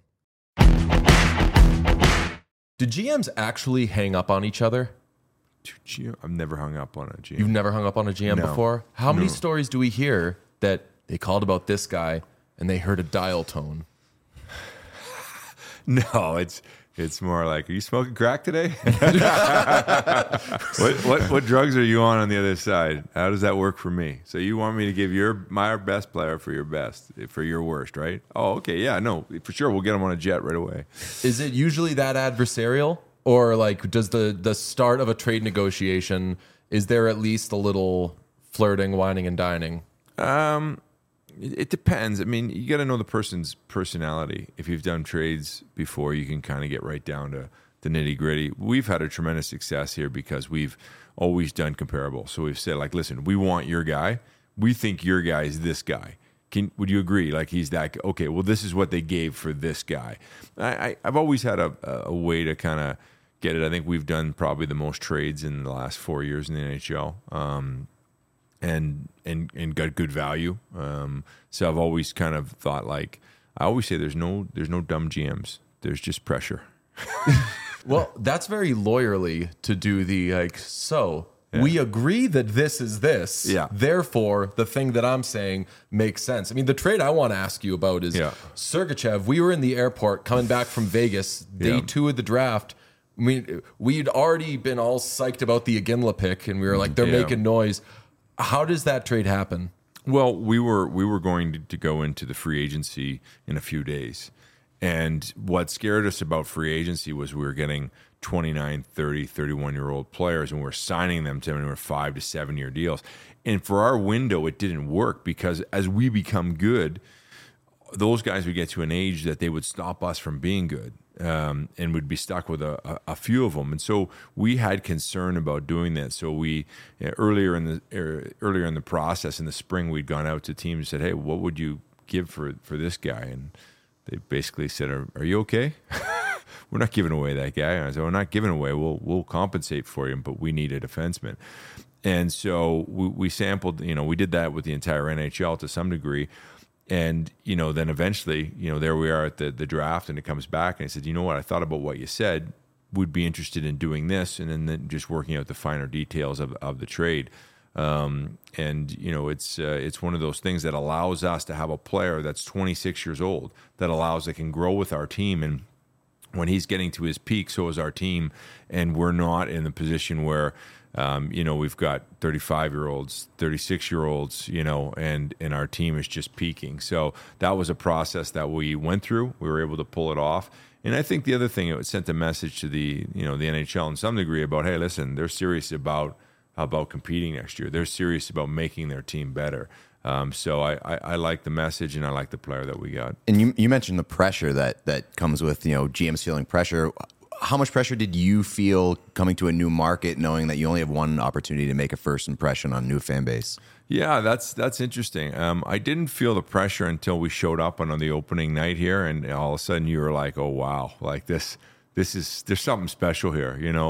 Did GMs actually hang up on each other? I've never hung up on a GM. You've never hung up on a GM No. before? How many No. stories do we hear that they called about this guy and they heard a dial tone? No, it's more like, are you smoking crack today? what drugs are you on the other side? How does that work for me? So you want me to give my best player for your best, for your worst, right? Oh, okay, yeah, no, for sure, we'll get him on a jet right away. Is it usually that adversarial? Or like, does the start of a trade negotiation, is there at least a little flirting, whining, and dining? It depends. I mean, you got to know the person's personality. If you've done trades before, you can kind of get right down to the nitty gritty. We've had a tremendous success here because we've always done comparable. So we've said, like, listen, we want your guy. We think your guy is this guy. Would you agree? Like, he's that, okay, well, this is what they gave for this guy. I've always had a way to kind of get it. I think we've done probably the most trades in the last 4 years in the NHL. And got good value. So I've always kind of thought, like, I always say there's no dumb GMs. There's just pressure. Well, that's very lawyerly to do the like, so we agree that this is this. Yeah. Therefore, the thing that I'm saying makes sense. I mean, the trade I want to ask you about is Sergachev. We were in the airport coming back from Vegas, day 2 of the draft. I mean, we'd already been all psyched about the Iginla pick, and we were like, they're making noise. How does that trade happen? Well, we were going to go into the free agency in a few days. And what scared us about free agency was we were getting 29, 30, 31-year-old players, and we were signing them to anywhere 5 to 7 year deals. And for our window, it didn't work because as we become good, those guys would get to an age that they would stop us from being good. And would be stuck with a few of them, and so we had concern about doing that. So we earlier in the process in the spring, we'd gone out to teams and said, "Hey, what would you give for this guy?" And they basically said, "Are you okay? We're not giving away that guy." And I said, "We're not giving away. We'll compensate for him, but we need a defenseman." And so we sampled. We did that with the entire NHL to some degree. And, then eventually, there we are at the draft, and it comes back, and I said, you know what, I thought about what you said, would be interested in doing this, and then just working out the finer details of the trade. It's one of those things that allows us to have a player that's 26 years old, that can grow with our team, and when he's getting to his peak, so is our team, and we're not in the position where we've got 35-year-olds, 36-year-olds, and our team is just peaking. So that was a process that we went through. We were able to pull it off. And I think the other thing, it sent a message to the NHL in some degree about, hey, listen, they're serious about competing next year. They're serious about making their team better. So I like the message, and I like the player that we got. And you mentioned the pressure that comes with, GMs feeling pressure. How much pressure did you feel coming to a new market, knowing that you only have one opportunity to make a first impression on a new fan base? Yeah, that's interesting. I didn't feel the pressure until we showed up on the opening night here, and all of a sudden you were like, "Oh wow, like there's something special here."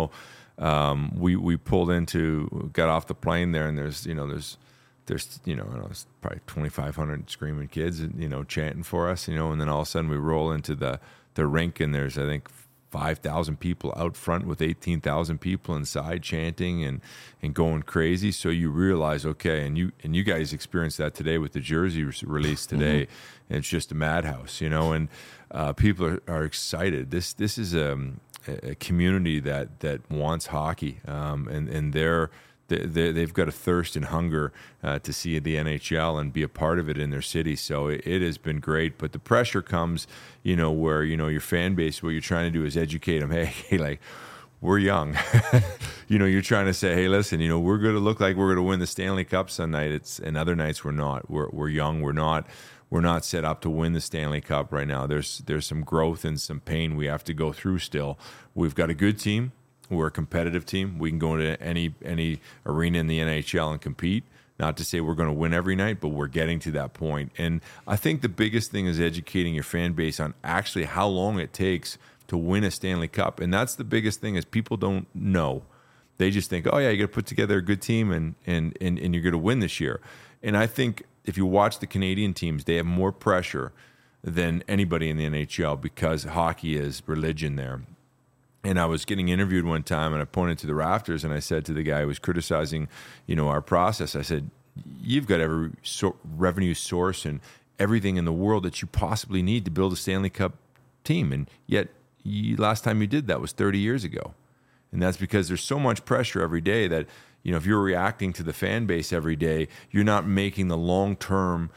We pulled got off the plane there, and there's probably 2,500 screaming kids, chanting for us, and then all of a sudden we roll into the rink, and there's, I think, 5,000 people out front with 18,000 people inside chanting and going crazy. So you realize, okay, and you guys experienced that today with the jersey release today. Mm-hmm. And it's just a madhouse, and people are excited. This is a community that wants hockey, and they're they've got a thirst and hunger to see the NHL and be a part of it in their city. So it has been great. But the pressure comes, where, your fan base, what you're trying to do is educate them. Hey, like, we're young. You're trying to say, hey, listen, we're going to look like we're going to win the Stanley Cup some night. And other nights we're not. We're young. We're not set up to win the Stanley Cup right now. There's some growth and some pain we have to go through still. We've got a good team. We're a competitive team. We can go into any arena in the NHL and compete. Not to say we're going to win every night, but we're getting to that point. And I think the biggest thing is educating your fan base on actually how long it takes to win a Stanley Cup. And that's the biggest thing, is people don't know. They just think, oh yeah, you got to put together a good team and you're going to win this year. And I think if you watch the Canadian teams, they have more pressure than anybody in the NHL because hockey is religion there. And I was getting interviewed one time, and I pointed to the rafters, and I said to the guy who was criticizing, our process, I said, you've got every revenue source and everything in the world that you possibly need to build a Stanley Cup team. And yet, last time you did that was 30 years ago. And that's because there's so much pressure every day that, if you're reacting to the fan base every day, you're not making the long-term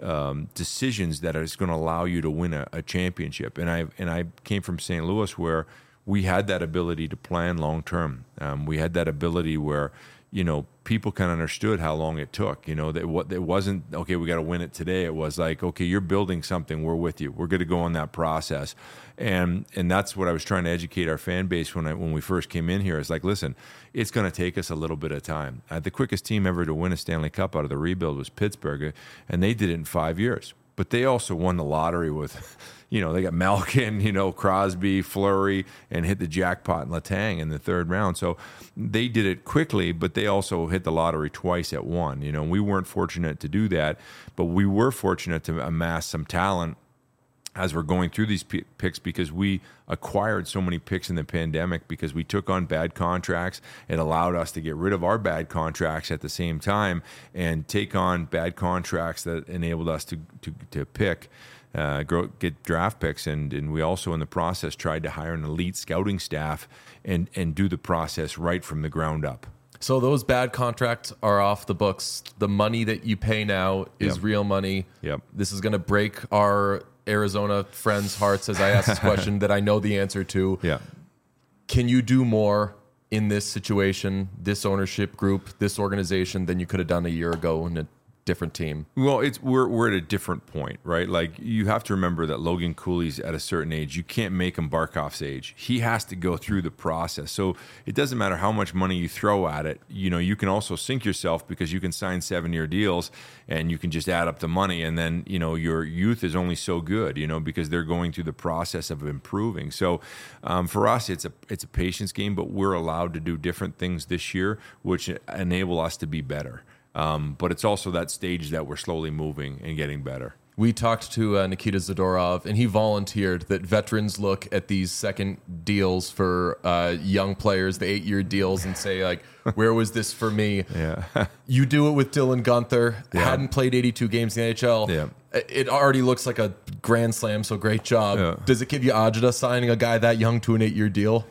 decisions that is going to allow you to win a championship. And I came from St. Louis, where we had that ability to plan long term. We had that ability where, people kind of understood how long it took. That it wasn't, okay, we got to win it today. It was like, okay, you're building something. We're with you. We're going to go on that process. And that's what I was trying to educate our fan base when we first came in here. It's like, listen, it's going to take us a little bit of time. The quickest team ever to win a Stanley Cup out of the rebuild was Pittsburgh, and they did it in 5 years. But they also won the lottery with, they got Malkin, Crosby, Fleury, and hit the jackpot in Letang in the third round. So they did it quickly, but they also hit the lottery twice at one. We weren't fortunate to do that, but we were fortunate to amass some talent as we're going through these picks, because we acquired so many picks in the pandemic because we took on bad contracts. It allowed us to get rid of our bad contracts at the same time and take on bad contracts that enabled us to pick, get draft picks. And we also in the process tried to hire an elite scouting staff and do the process right from the ground up. So those bad contracts are off the books. The money that you pay now is real money. Yep. This is going to break our Arizona friends' hearts as I ask this question that I know the answer to. Yeah. Can you do more in this situation, this ownership group, this organization than you could have done a year ago in a different team? Well, we're at a different point, right? Like, you have to remember that Logan Cooley's at a certain age. You can't make him Barkov's age. He has to go through the process. So it doesn't matter how much money you throw at it. You can also sink yourself, because you can sign 7-year deals and you can just add up the money, and then your youth is only so good, because they're going through the process of improving. So for us, it's a patience game, but we're allowed to do different things this year, which enable us to be better. But it's also that stage that we're slowly moving and getting better. We talked to Nikita Zadorov, and he volunteered that veterans look at these second deals for young players, the 8-year deals, and say, like, where was this for me? Yeah. You do it with Dylan Guenther. Hadn't played 82 games in the NHL. Yeah. It already looks like a grand slam, so great job. Yeah. Does it give you agita signing a guy that young to an 8-year deal?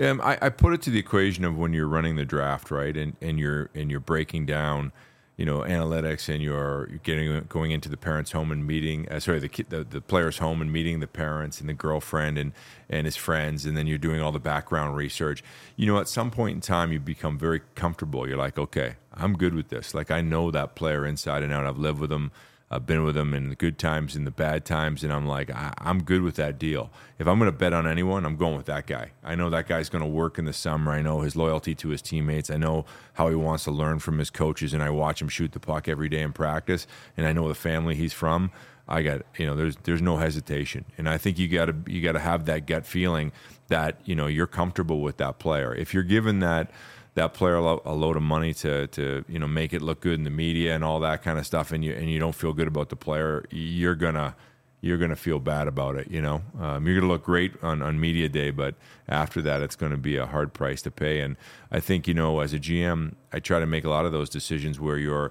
I put it to the equation of when you're running the draft, right, and you're breaking down, analytics, and you're going into the parents' home and meeting, the player's home and meeting the parents and the girlfriend and his friends, and then you're doing all the background research. At some point in time, you become very comfortable. You're like, okay, I'm good with this. Like, I know that player inside and out. I've lived with him. I've been with them in the good times and the bad times, and I'm like, I'm good with that deal. If I'm going to bet on anyone, I'm going with that guy. I know that guy's going to work in the summer. I know his loyalty to his teammates. I know how he wants to learn from his coaches, and I watch him shoot the puck every day in practice, and I know the family he's from. I got, there's no hesitation, and I think you got to have that gut feeling that you're comfortable with that player. If you're given that player a load of money to make it look good in the media and all that kind of stuff, and you don't feel good about the player, you're gonna feel bad about it. You're gonna look great on media day, but after that, it's going to be a hard price to pay. And I think as a GM, I try to make a lot of those decisions where you're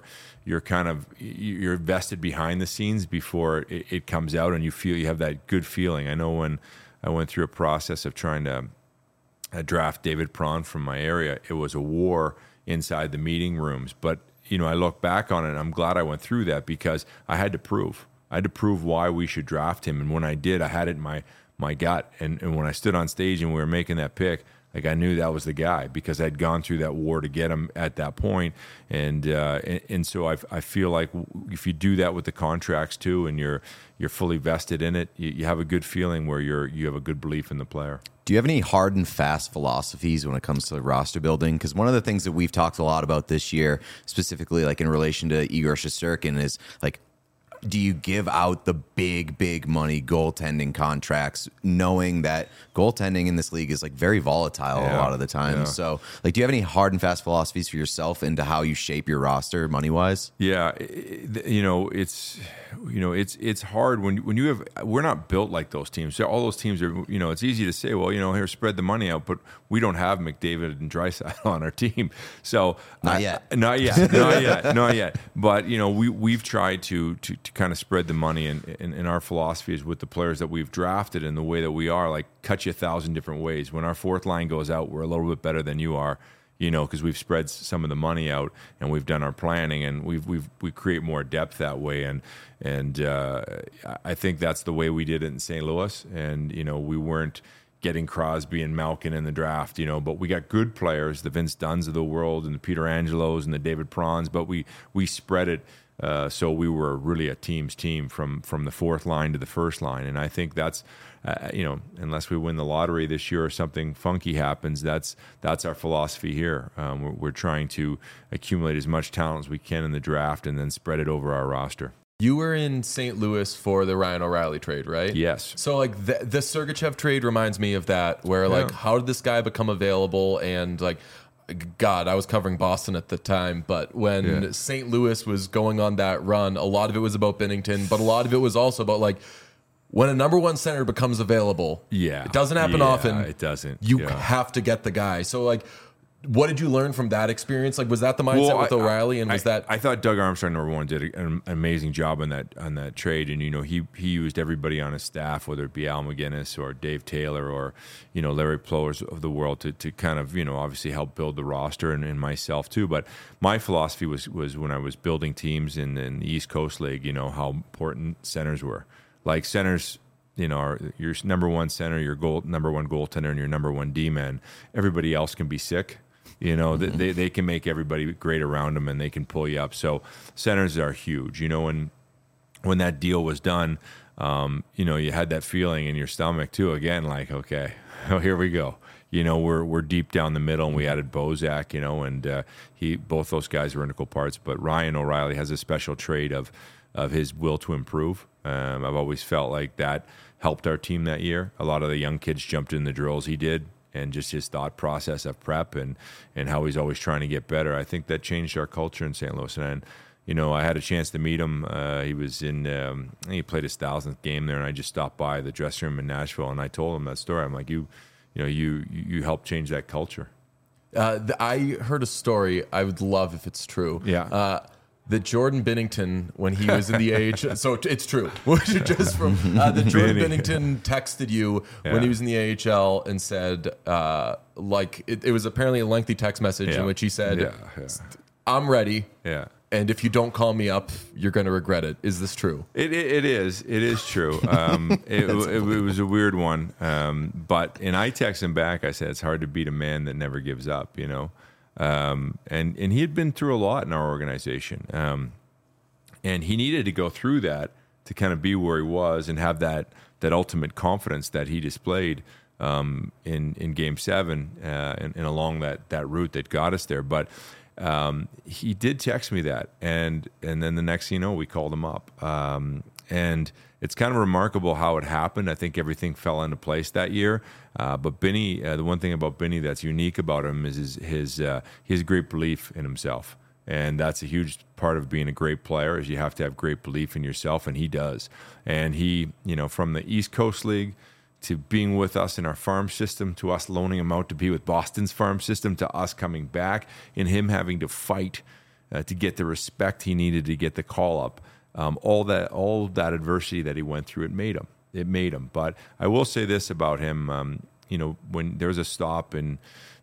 vested behind the scenes before it comes out, and you have that good feeling. I know when I went through a process of trying to draft David Perron from my area, it was a war inside the meeting rooms. But I look back on it, and I'm glad I went through that because I had to prove why we should draft him. And when I did, I had it in my gut. And when I stood on stage and we were making that pick, like I knew that was the guy because I'd gone through that war to get him at that point. And so I feel like if you do that with the contracts too, and you're fully vested in it, you have a good feeling where you have a good belief in the player. Do you have any hard and fast philosophies when it comes to roster building? Because one of the things that we've talked a lot about this year, specifically like in relation to Igor Shesterkin, is like, do you give out the big money goaltending contracts knowing that goaltending in this league is like very volatile a lot of the time? So like, do you have any hard and fast philosophies for yourself into how you shape your roster money wise? Yeah. It's hard when you have, we're not built like those teams. So all those teams are, it's easy to say, well, here, spread the money out, but we don't have McDavid and Draisaitl on our team. So not yet. But we've tried to kind of spread the money, and our philosophy is with the players that we've drafted and the way that we are, like, cut you 1,000 different ways. When our fourth line goes out, we're a little bit better than you are, because we've spread some of the money out and we've done our planning, and we create more depth that way. And I think that's the way we did it in St. Louis. And we weren't getting Crosby and Malkin in the draft, but we got good players, the Vince Dunns of the world and the Peter Angelos and the David Prawns, but we spread it. So we were really a team's team from the fourth line to the first line. And I think that's, unless we win the lottery this year or something funky happens, that's our philosophy here. We're trying to accumulate as much talent as we can in the draft and then spread it over our roster. You were in St. Louis for the Ryan O'Reilly trade, right? Yes. So like the Sergachev trade reminds me of that, where like, how did this guy become available? And like, God, I was covering Boston at the time, but when St. Louis was going on that run, a lot of it was about Binnington, but a lot of it was also about like, when a number one center becomes available, it doesn't happen often. It doesn't. You have to get the guy. So like, what did you learn from that experience? Like, was that the mindset with O'Reilly? And I thought Doug Armstrong, number one, did an amazing job on that trade. And he used everybody on his staff, whether it be Al McGinnis or Dave Taylor or Larry Plowers of the world, to kind of obviously help build the roster, and myself too. But my philosophy was when I was building teams in the East Coast League, how important centers were. Like centers, your number one center, your number one goaltender, and your number one D-man. Everybody else can be sick. They can make everybody great around them, and they can pull you up. So centers are huge. And when that deal was done, you had that feeling in your stomach too. Again, like, okay, here we go. We're deep down the middle, and we added Bozak. And both those guys were integral parts. But Ryan O'Reilly has a special trait of his will to improve. I've always felt like that helped our team that year. A lot of the young kids jumped in the drills he did, and just his thought process of prep and how he's always trying to get better. I think that changed our culture in St. Louis. And, I had a chance to meet him. He was he played his 1,000th game there, and I just stopped by the dressing room in Nashville, and I told him that story. I'm like, you helped change that culture. I heard a story. I would love if it's true. Yeah. That Jordan Binnington, when he was in the AHL, so it's true. Just from that Jordan Binnington texted you when he was in the AHL and said, like it was apparently a lengthy text message in which he said, "I'm ready. Yeah. And if you don't call me up, you're going to regret it." Is this true? It is. It is true. It was a weird one. But I texted him back. I said, it's hard to beat a man that never gives up, And he had been through a lot in our organization. And he needed to go through that to kind of be where he was and have that ultimate confidence that he displayed in Game 7 and along that route that got us there. But he did text me that, and then the next thing you know, we called him up. And it's kind of remarkable how it happened. I think everything fell into place that year. But Benny, the one thing about Benny that's unique about him is his great belief in himself. And that's a huge part of being a great player, is you have to have great belief in yourself, and he does. And he, from the East Coast League to being with us in our farm system, to us loaning him out to be with Boston's farm system, to us coming back and him having to fight to get the respect he needed to get the call up. All that adversity that he went through, it made him. But I will say this about him, when there was a stop in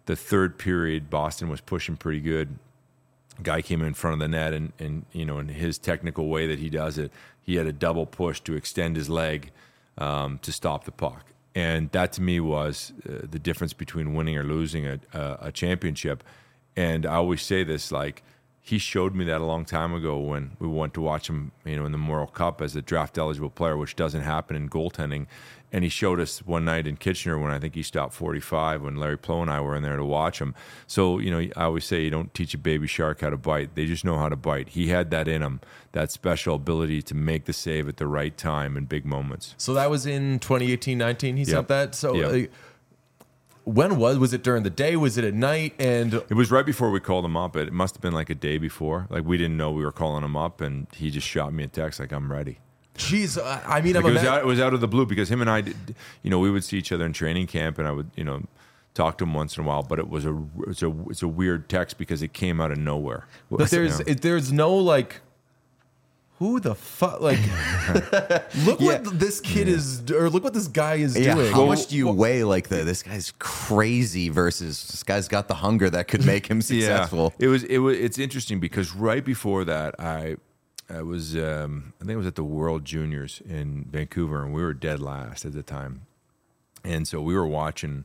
the third period, Boston was pushing pretty good. Guy came in front of the net, and you know, in his technical way that he does it, he had a double push to extend his leg to stop the puck. And that to me was the difference between winning or losing a championship. And I always say this, like, he showed me that a long time ago when we went to watch him, you know, in the Memorial Cup as a draft eligible player, which doesn't happen in goaltending. And he showed us one night in Kitchener when I think he stopped 45 when Larry Plow and I were in there to watch him. So, you know, I always say you don't teach a baby shark how to bite. They just know how to bite. He had that in him, that special ability to make the save at the right time in big moments. So that was in 2018-19 he sent that? So Yep. When was it during the day? Was it at night? And It was right before we called him up. It must have been like a day before. Like, we didn't know we were calling him up, and he just shot me a text like, I'm ready. geez, I mean, Like, it was out of the blue because him and I, you know, we would see each other in training camp, and I would, you know, talk to him once in a while. But it's a weird text because it came out of nowhere. but there's no like, who the fuck? Like, look what this kid is, or look what this guy is doing. How much do you weigh like this guy's crazy versus this guy's got the hunger that could make him successful? Yeah. It's interesting because right before that, I was I think it was at the World Juniors in Vancouver, and we were dead last at the time, and so we were watching.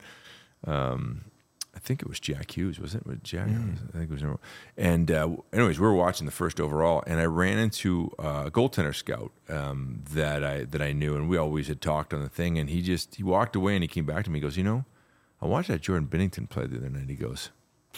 I think it was Jack Hughes, wasn't it? With Jack, I think it was. And anyways, we were watching the first overall, and I ran into a goaltender scout that I knew, and we always had talked on the thing. And he walked away, and he came back to me. He goes, you know, I watched that Jordan Binnington play the other night. He goes,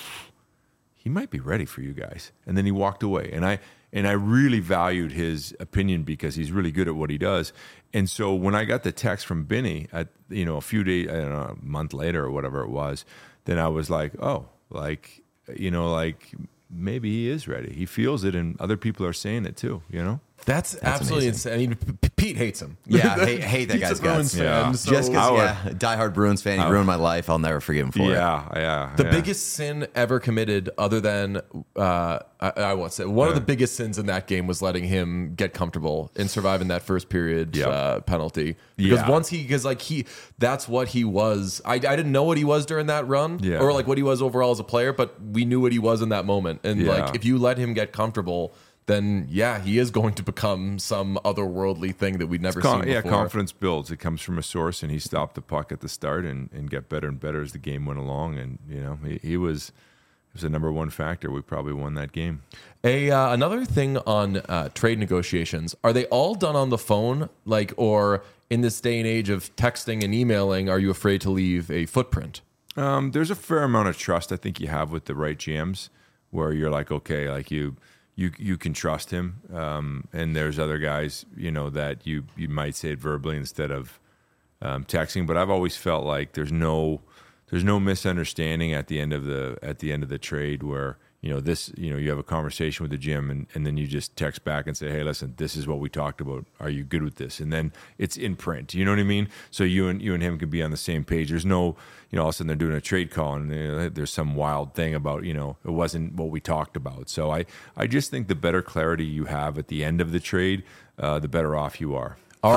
he might be ready for you guys. And then he walked away, and I really valued his opinion because he's really good at what he does. And so when I got the text from Binny at, you know, a few days, I don't know, a month later or whatever it was, then I was like, oh, like, you know, like maybe he is ready. He feels it, and other people are saying it too, you know? That's absolutely insane. I mean, Pete hates him. Yeah, hate that Pete's guy's a Bruins guts. fan, Yeah. so Just because, diehard Bruins fan, he ruined my life. I'll never forgive him for it. Yeah. the biggest sin ever committed, other than I won't say one of the biggest sins in that game was letting him get comfortable and surviving that first period penalty. Because that's what he was. I didn't know what he was during that run, or like what he was overall as a player, but we knew what he was in that moment. And like if you let him get comfortable, then he is going to become some otherworldly thing that we'd never seen before. Yeah, confidence builds. It comes from a source, and he stopped the puck at the start and got better and better as the game went along. And you know, he was the number one factor. We probably won that game. Another thing on trade negotiations, are they all done on the phone? Like, or in this day and age of texting and emailing, are you afraid to leave a footprint? There's a fair amount of trust I think you have with the right GMs, where you're like, okay, like you can trust him, and there's other guys, you know, that you might say it verbally instead of texting. But I've always felt like there's no misunderstanding at the end of the trade where, you know, you have a conversation with the GM and then you just text back and say, hey, listen, this is what we talked about. Are you good with this? And then it's in print. You know what I mean? So you and him can be on the same page. There's no, you know, all of a sudden they're doing a trade call and there's some wild thing about, you know, it wasn't what we talked about. So I just think the better clarity you have at the end of the trade, the better off you are.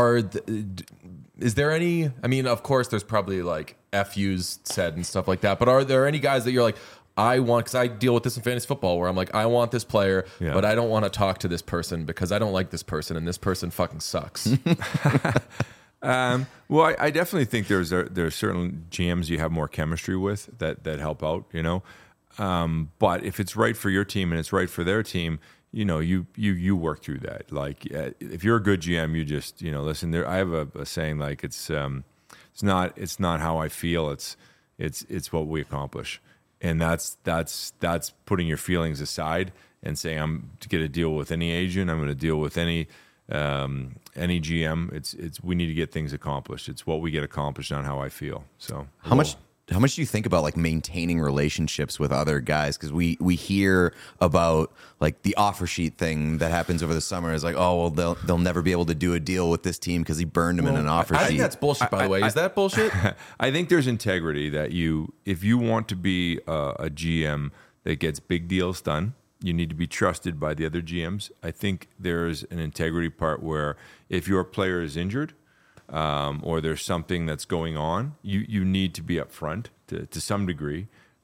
Is there any, I mean, of course, there's probably like FUs said and stuff like that, but are there any guys that you're like, because I deal with this in fantasy football where I'm like, I want this player, but I don't want to talk to this person because I don't like this person and this person fucking sucks. Well, I definitely think there's certain GMs you have more chemistry with that help out, you know. But if it's right for your team and it's right for their team, you know, you work through that. Like if you're a good GM, you just, you know, listen. I have a saying like it's not how I feel. It's what we accomplish. And that's putting your feelings aside and saying I'm going to deal with any agent. I'm going to deal with any GM. It's we need to get things accomplished. It's what we get accomplished, not how I feel. So How much do you think about like maintaining relationships with other guys? Because we hear about like the offer sheet thing that happens over the summer is like, oh well, they'll never be able to do a deal with this team because he burned them in an offer sheet. I think that's bullshit. By the way, is that bullshit? I think there's integrity that if you want to be a GM that gets big deals done, you need to be trusted by the other GMs. I think there's an integrity part where if your player is injured, or there's something that's going on, you need to be upfront to some degree,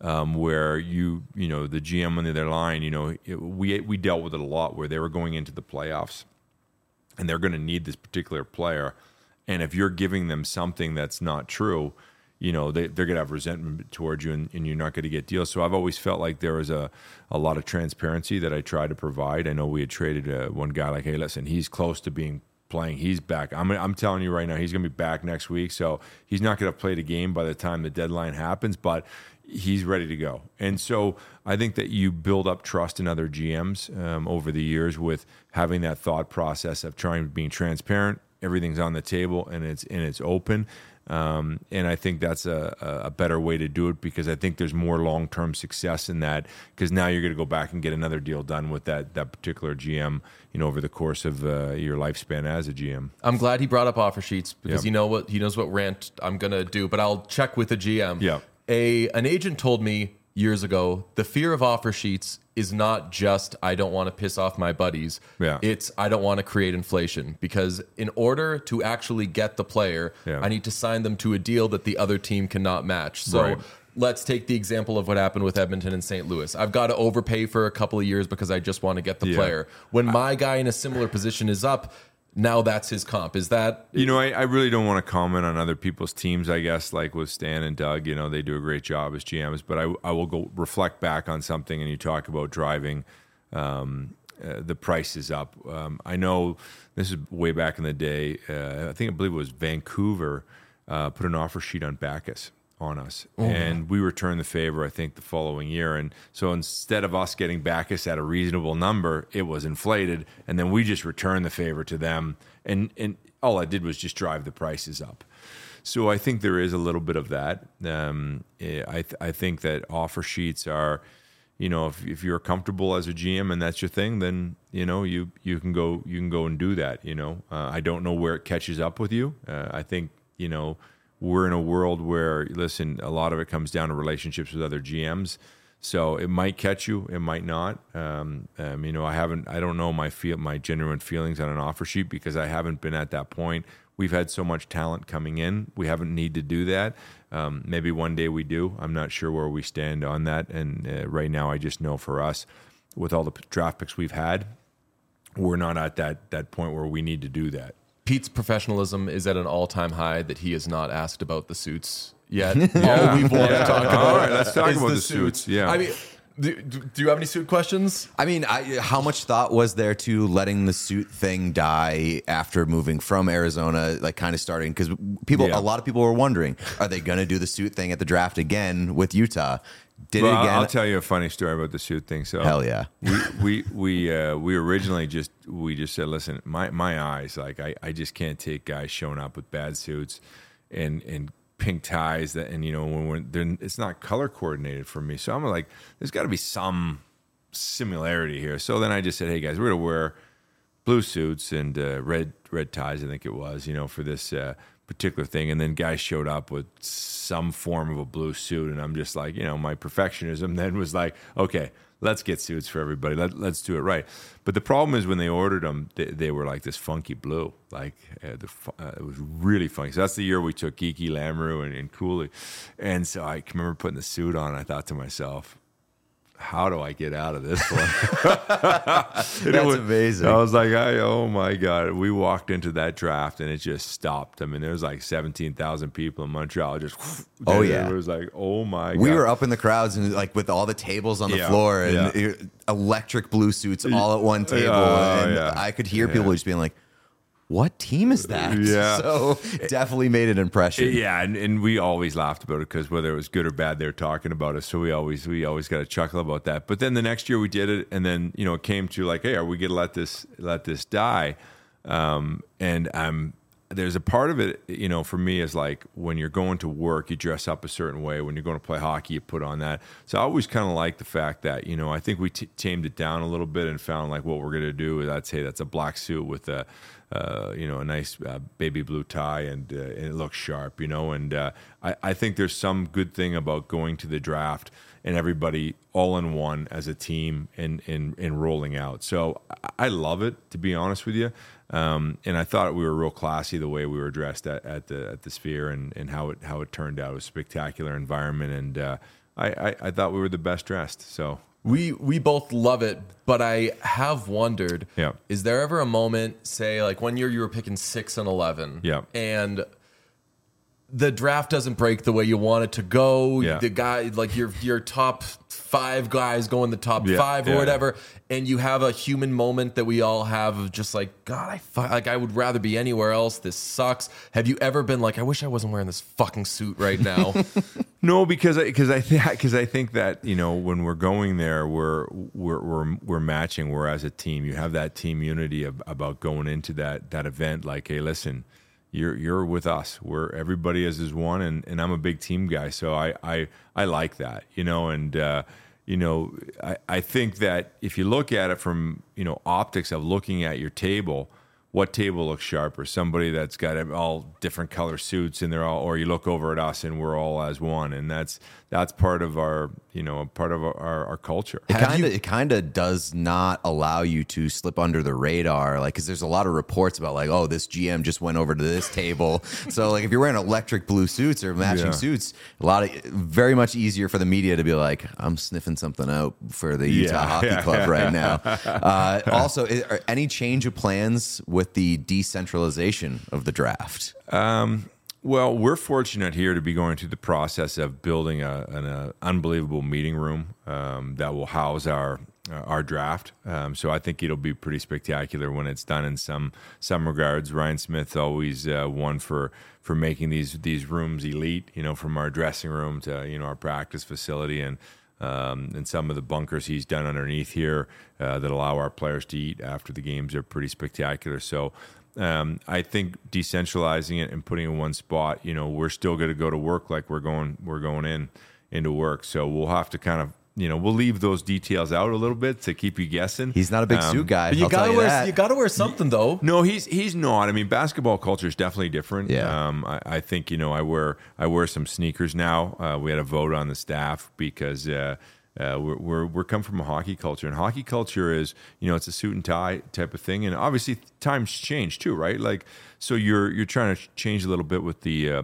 where you know the GM on the other line, we dealt with it a lot where they were going into the playoffs and they're going to need this particular player, and if you're giving them something that's not true, they're going to have resentment towards you, and you're not going to get deals. So I've always felt like there was a lot of transparency that I tried to provide. I know we had traded one guy like, hey, listen, he's close to being playing. He's back. I'm telling you right now, he's going to be back next week. So he's not going to play the game by the time the deadline happens, but he's ready to go. And so I think that you build up trust in other GMs over the years with having that thought process of being transparent. Everything's on the table and it's open. And I think that's a better way to do it, because I think there's more long-term success in that, because now you're going to go back and get another deal done with that particular GM, over the course of your lifespan as a GM. I'm glad he brought up offer sheets, because he knows what rant I'm going to do, but I'll check with the GM. Yeah. An agent told me years ago, the fear of offer sheets is not just I don't want to piss off my buddies. Yeah. It's I don't want to create inflation, because in order to actually get the player, I need to sign them to a deal that the other team cannot match. So Right. let's take the example of what happened with Edmonton and St. Louis. I've got to overpay for a couple of years because I just want to get the player. When my guy in a similar position is up, now that's his comp. Is that... I really don't want to comment on other people's teams, I guess, like with Stan and Doug. They do a great job as GMs, but I will go reflect back on something, and you talk about driving the prices up. I know this is way back in the day. I believe it was Vancouver put an offer sheet on Backes on us, and we returned the favor, I think, the following year. And so instead of us getting Backes at a reasonable number, it was inflated, and then we just returned the favor to them, and all I did was just drive the prices up. So I think there is a little bit of that. I think that offer sheets are, if you're comfortable as a GM and that's your thing, then you can go and do that. I don't know where it catches up with you. I think we're in a world where, listen, a lot of it comes down to relationships with other GMs. So it might catch you, it might not. I don't know my genuine feelings on an offer sheet, because I haven't been at that point. We've had so much talent coming in. We haven't need to do that. Maybe one day we do. I'm not sure where we stand on that. And right now, I just know for us, with all the draft picks we've had, we're not at that point where we need to do that. Pete's professionalism is at an all-time high that he has not asked about the suits yet. All we've wanted to talk about. All right, let's talk is about the suits. Yeah. I mean, do you have any suit questions? I mean, how much thought was there to letting the suit thing die after moving from Arizona, like kind of starting? Because a lot of people were wondering, are they going to do the suit thing at the draft again with Utah? Did it again? I'll tell you a funny story about the suit thing. So hell yeah, we originally just said, listen, my eyes, like I just can't take guys showing up with bad suits and pink ties when it's not color coordinated for me. So I'm like, there's got to be some similarity here. So then I just said, hey guys, we're gonna wear blue suits and red ties, I think it was, for this particular thing. And then guys showed up with some form of a blue suit, and I'm just like, my perfectionism then was like, okay, let's get suits for everybody. Let's do it right. But the problem is when they ordered them, they were like this funky blue. Like it was really funky. So that's the year we took Geeky, Lamoureux, and Cooley. And so I can remember putting the suit on, and I thought to myself, how do I get out of this one? That's amazing. I was like, oh my God. We walked into that draft and it just stopped. I mean, there was like 17,000 people in Montreal. Just, oh yeah. It was like, oh my God. We were up in the crowds and like with all the tables on the floor and electric blue suits all at one table. I could hear people just being like, what team is that? Yeah. So definitely made an impression. Yeah, and we always laughed about it because whether it was good or bad, they were talking about us. So we always got a chuckle about that. But then the next year we did it, and then it came to like, hey, are we gonna let this die? There's a part of it, for me is like when you're going to work, you dress up a certain way. When you're going to play hockey, you put on that. So I always kind of like the fact that, I think we tamed it down a little bit and found like what we're going to do is I'd say that's a black suit with a nice baby blue tie and it looks sharp, and I think there's some good thing about going to the draft and everybody all in one as a team and rolling out. So I love it, to be honest with you. And I thought we were real classy the way we were dressed at the Sphere and how it turned out. It was a spectacular environment, and I thought we were the best dressed. So We both love it, but I have wondered, Yeah. is there ever a moment, say, like one year you were picking 6 and 11, Yeah. and the draft doesn't break the way you want it to go. Yeah. The guy, like your top 5 guys go in the top Yeah. 5 or Yeah. whatever, and you have a human moment that we all have of just like, God, I would rather be anywhere else. This sucks. Have you ever been like, I wish I wasn't wearing this fucking suit right now? no, because I think that, you know, when we're going there, we're matching. We're as a team. You have that team unity about going into that event. Like, hey, listen, you're with us. Everybody is one, and I'm a big team guy, so I like that, you know. And you know, I think that if you look at it from, you know, optics of looking at your table, what table looks sharper? Somebody that's got all different color suits and they're all, or you look over at us and we're all as one, and that's part of our, you know, part of our culture. It kind of does not allow you to slip under the radar, like, because there's a lot of reports about like, oh, this GM just went over to this table. So like, if you're wearing electric blue suits or matching suits, very much easier for the media to be like, I'm sniffing something out for the Utah Hockey Club right now. Also, are any change of plans with the decentralization of the draft? Well, we're fortunate here to be going through the process of building an unbelievable meeting room that will house our draft. So I think it'll be pretty spectacular when it's done in some regards. Ryan Smith's always one for making these rooms elite, you know, from our dressing room to, you know, our practice facility and some of the bunkers he's done underneath here that allow our players to eat after the games are pretty spectacular. So I think decentralizing it and putting it in one spot, you know, we're still going to go to work like we're going into work. So we'll have to kind of, you know, we'll leave those details out a little bit to keep you guessing. He's not a big suit guy. But you gotta wear something though. No, he's not. I mean, basketball culture is definitely different. Yeah. I think, you know, I wear some sneakers now. We had a vote on the staff because we're come from a hockey culture, and hockey culture is, you know, it's a suit and tie type of thing, and obviously times change too, right? Like, so you're trying to change a little bit with the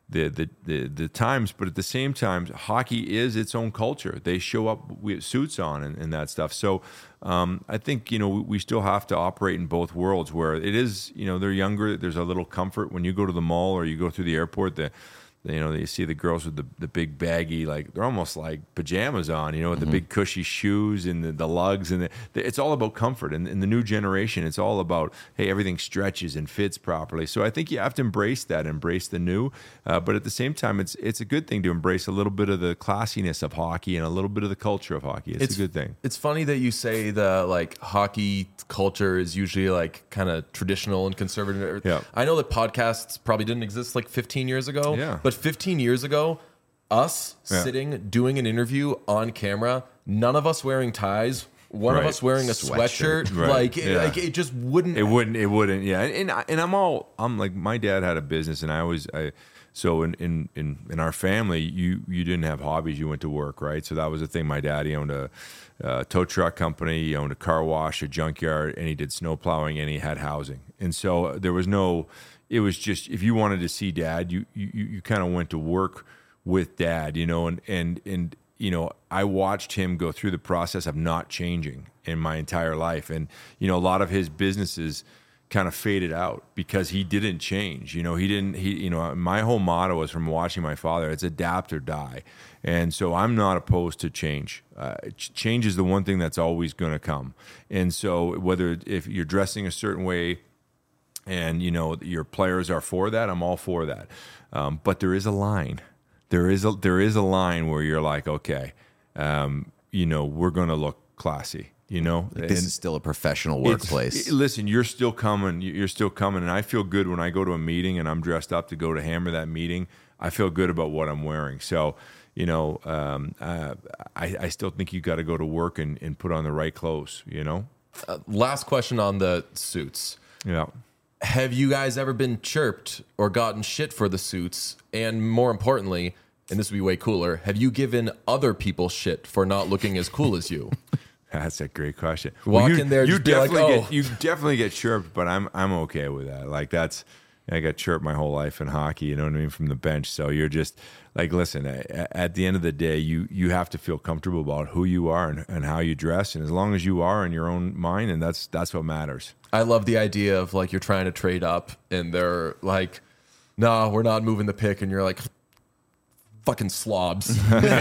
times, but at the same time, hockey is its own culture. They show up with suits on and that stuff. So I think, you know, we still have to operate in both worlds where it is, you know, they're younger. There's a little comfort when you go to the mall or you go through the airport. You know, you see the girls with the big baggy, like they're almost like pajamas on, you know, with the big cushy shoes and the lugs, and it's all about comfort. And in the new generation, it's all about, hey, everything stretches and fits properly. So I think you have to embrace the new, but at the same time, it's a good thing to embrace a little bit of the classiness of hockey and a little bit of the culture of hockey. It's a good thing. It's funny that you say the like hockey culture is usually like kind of traditional and conservative. Yeah. I know that podcasts probably didn't exist like 15 years ago. Yeah. But 15 years ago, us sitting doing an interview on camera, none of us wearing ties, one of Right. us wearing a sweatshirt, Right. like, Yeah. like it just wouldn't. It wouldn't. Yeah. And I'm like, my dad had a business, and so in our family, you didn't have hobbies. You went to work, right? So that was the thing. My daddy owned a tow truck company. He owned a car wash, a junkyard, and he did snow plowing, and he had housing. And so there was no. It was just, if you wanted to see dad, you kind of went to work with dad, you know, and you know, I watched him go through the process of not changing in my entire life. And, you know, a lot of his businesses kind of faded out because he didn't change. You know, you know, my whole motto was from watching my father, it's adapt or die. And so I'm not opposed to change. Change is the one thing that's always going to come. And so if you're dressing a certain way, and, you know, your players are for that, I'm all for that. But there is a line. There is a line where you're like, okay, you know, we're going to look classy, you know. This is still a professional workplace. Listen, you're still coming. You're still coming. And I feel good when I go to a meeting and I'm dressed up to go to hammer that meeting. I feel good about what I'm wearing. So, you know, I still think you got to go to work and put on the right clothes, you know. Last question on the suits. Yeah. Have you guys ever been chirped or gotten shit for the suits? And more importantly, and this would be way cooler, have you given other people shit for not looking as cool as you? That's a great question. Walk in there, you just be like, definitely oh. you definitely get chirped, but I'm okay with that. Like that's I got chirped my whole life in hockey, you know what I mean, from the bench. So you're just like, listen, at the end of the day, you have to feel comfortable about who you are and how you dress. And as long as you are in your own mind, and that's what matters. I love the idea of like you're trying to trade up and they're like, no, we're not moving the pick. And you're like, fucking slobs.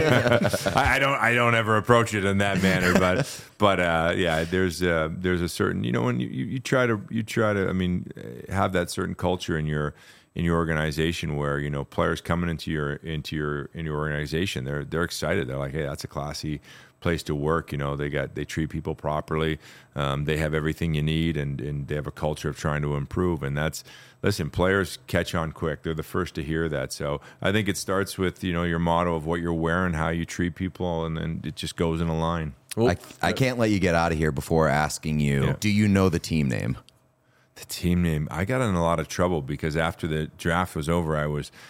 I don't ever approach it in that manner, but yeah, there's a certain, you know, when you try to I mean, have that certain culture in your organization where, you know, players coming into your organization, they're excited. They're like, hey, that's a classy place to work. You know, they treat people properly. They have everything you need, and they have a culture of trying to improve. And listen, players catch on quick. They're the first to hear that. So I think it starts with, you know, your motto of what you're wearing, how you treat people, and then it just goes in a line. Well, I can't let you get out of here before asking you, do you know the team name? The team name, I got in a lot of trouble because after the draft was over,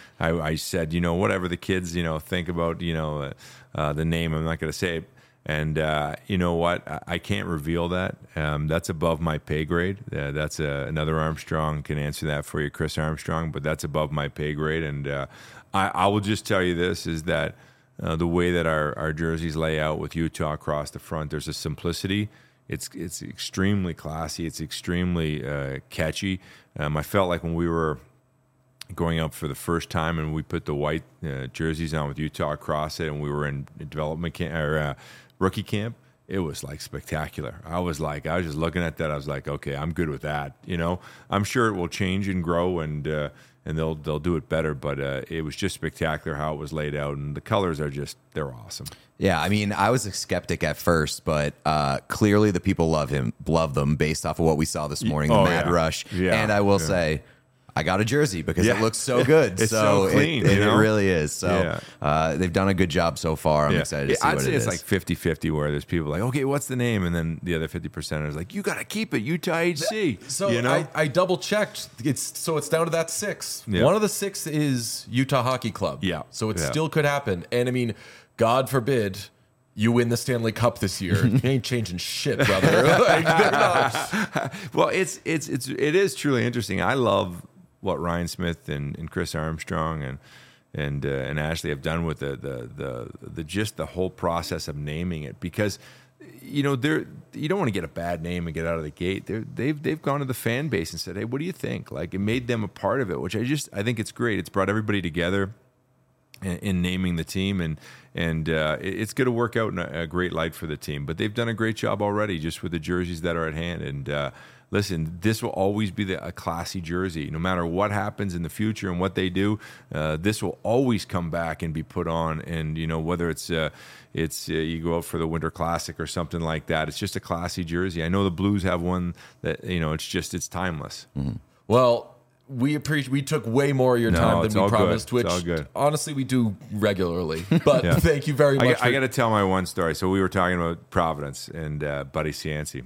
I said, you know, whatever the kids, you know, think about, you know, the name, I'm not going to say it. And you know what? I can't reveal that. That's above my pay grade. That's another Armstrong can answer that for you, Chris Armstrong. But that's above my pay grade. And I will just tell you this, is that the way that our jerseys lay out with Utah across the front, there's a simplicity. It's extremely classy. It's extremely catchy. I felt like when we were going up for the first time and we put the white jerseys on with Utah across it, and we were in development camp or rookie camp, it was like spectacular. I was just looking at that. I was like, okay, I'm good with that. You know, I'm sure it will change and grow, and they'll do it better. But it was just spectacular how it was laid out, and the colors are they're awesome. Yeah, I mean, I was a skeptic at first, but clearly the people love them based off of what we saw this morning, the Mad Rush. Yeah, and I will say, I got a jersey because it looks so good. It's so clean. It really is. So they've done a good job so far. I'm excited to see what it is. I'd say it's like 50-50 where there's people like, okay, what's the name? And then the other 50% is like, you got to keep it, Utah HC. So you know? I double checked. It's down to that 6. Yeah. One of the 6 is Utah Hockey Club. Yeah. So it still could happen. And I mean, God forbid you win the Stanley Cup this year. You ain't changing shit, brother. Like, they're not. Well, it is truly interesting. I love what Ryan Smith and Chris Armstrong and Ashley have done with the just the whole process of naming it, because you know you don't want to get a bad name and get out of the gate. They've gone to the fan base and said, hey, what do you think? Like, it made them a part of it, which I think it's great. It's brought everybody together in naming the team, and it's going to work out in a great light for the team. But they've done a great job already just with the jerseys that are at hand. And listen, this will always be a classy jersey. No matter what happens in the future and what they do, this will always come back and be put on. And, you know, whether it's you go out for the Winter Classic or something like that, it's just a classy jersey. I know the Blues have one that, you know, it's timeless. Mm-hmm. Well, we took way more of your time than we promised, which honestly we do regularly. But thank you very much. I got to tell my one story. So we were talking about Providence and Buddy Cianci.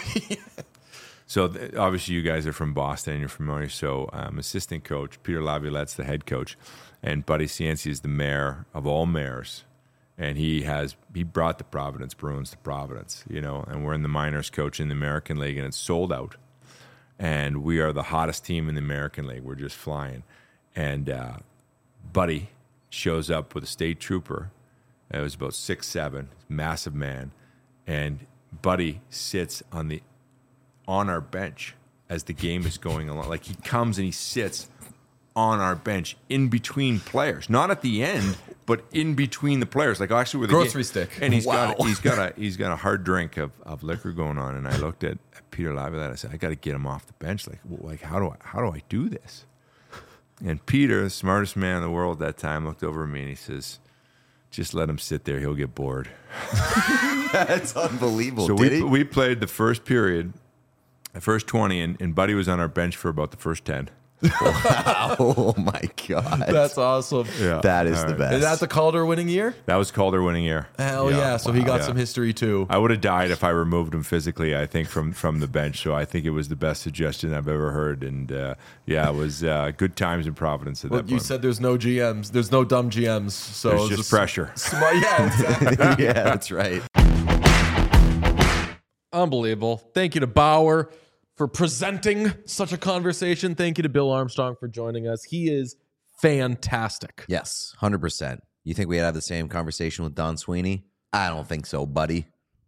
So obviously you guys are from Boston and you're familiar. So assistant coach Peter Laviolette's the head coach, and Buddy Cianci is the mayor of all mayors, and he brought the Providence Bruins to Providence. You know, and we're in the minors coach in the American League, and it's sold out. And we are the hottest team in the American League. We're just flying. And Buddy shows up with a state trooper. It was about 6'7", massive man. And Buddy sits on our bench as the game is going along. Like, he comes and he sits on our bench in between players. Not at the end, but in between the players. Like, actually, with the grocery stick. And he's got a hard drink of liquor going on. And I looked at Peter Laviolette. I said, I got to get him off the bench. Like how do I do this? And Peter, the smartest man in the world at that time, looked over at me and he says, just let him sit there. He'll get bored. That's unbelievable. So we played the first period, the first 20, and Buddy was on our bench for about the first 10. Wow. Oh my God. That's awesome. Yeah. That is the best. Is that the Calder winning year? That was Calder winning year. Hell yeah. So he got some history too. I would have died if I removed him physically, I think, from the bench. So I think it was the best suggestion I've ever heard. And it was good times in Providence at that point. You said there's no GMs. There's no dumb GMs. So there's just pressure. Yeah, exactly. Yeah, that's right. Unbelievable. Thank you to Bauer for presenting such a conversation. Thank you to Bill Armstrong for joining us. He is fantastic. Yes, 100%. You think we'd have the same conversation with Don Sweeney? I don't think so, buddy.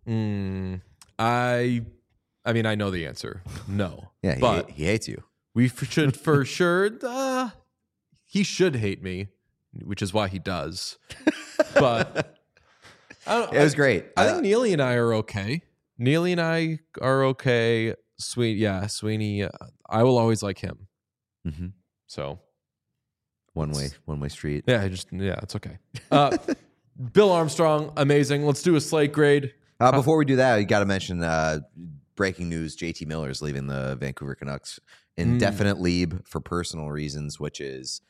I mean, I know the answer. No. Yeah, but he hates you. we should for sure. He should hate me, which is why he does. But It was great. I think Neely and I are okay. Neely and I are okay. Sweeney. I will always like him. Mm-hmm. So One way street. it's okay. Bill Armstrong, amazing. Let's do a slate grade. Before we do that, you got to mention breaking news: JT Miller is leaving the Vancouver Canucks, indefinite leave for personal reasons, which is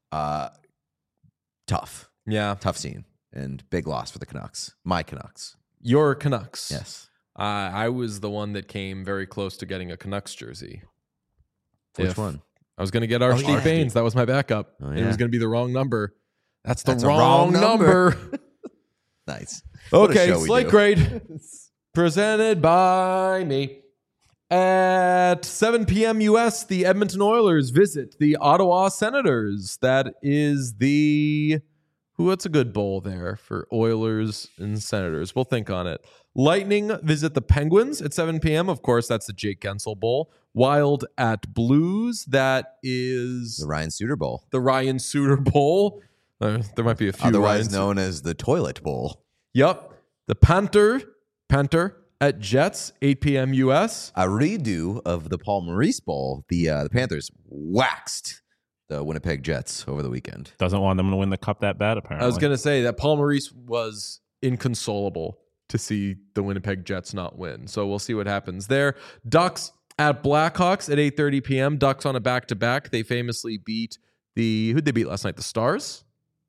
tough. Yeah, Tough scene and big loss for the Canucks. My Canucks. your Canucks. Yes. I was the one that came very close to getting a Canucks jersey. Which one? I was going to get Archie Baines. That was my backup. Oh, And it yeah. was going to be the wrong number. That's the That's a wrong wrong number. Nice. What a Okay, show we slate do. grade presented by me. At 7 p.m. U.S., the Edmonton Oilers visit the Ottawa Senators. That is what's a good bowl there for Oilers and Senators? We'll think on it. Lightning visit the Penguins at 7 p.m. Of course, that's the Jake Gensel Bowl. Wild at Blues. That is The Ryan Suter Bowl, the Ryan Suter Bowl. There might be a few. otherwise Ryans. known as the Toilet Bowl. Yep. The Panther at Jets, 8 p.m. U.S. A redo of the Paul Maurice Bowl. The Panthers waxed the Winnipeg Jets over the weekend. Doesn't want them to win the cup that bad, apparently. I was going to say that Paul Maurice was inconsolable to see the Winnipeg Jets not win. So we'll see what happens there. Ducks at Blackhawks at 8:30 p.m. Ducks on a back-to-back. They famously beat who'd they beat last night? The Stars?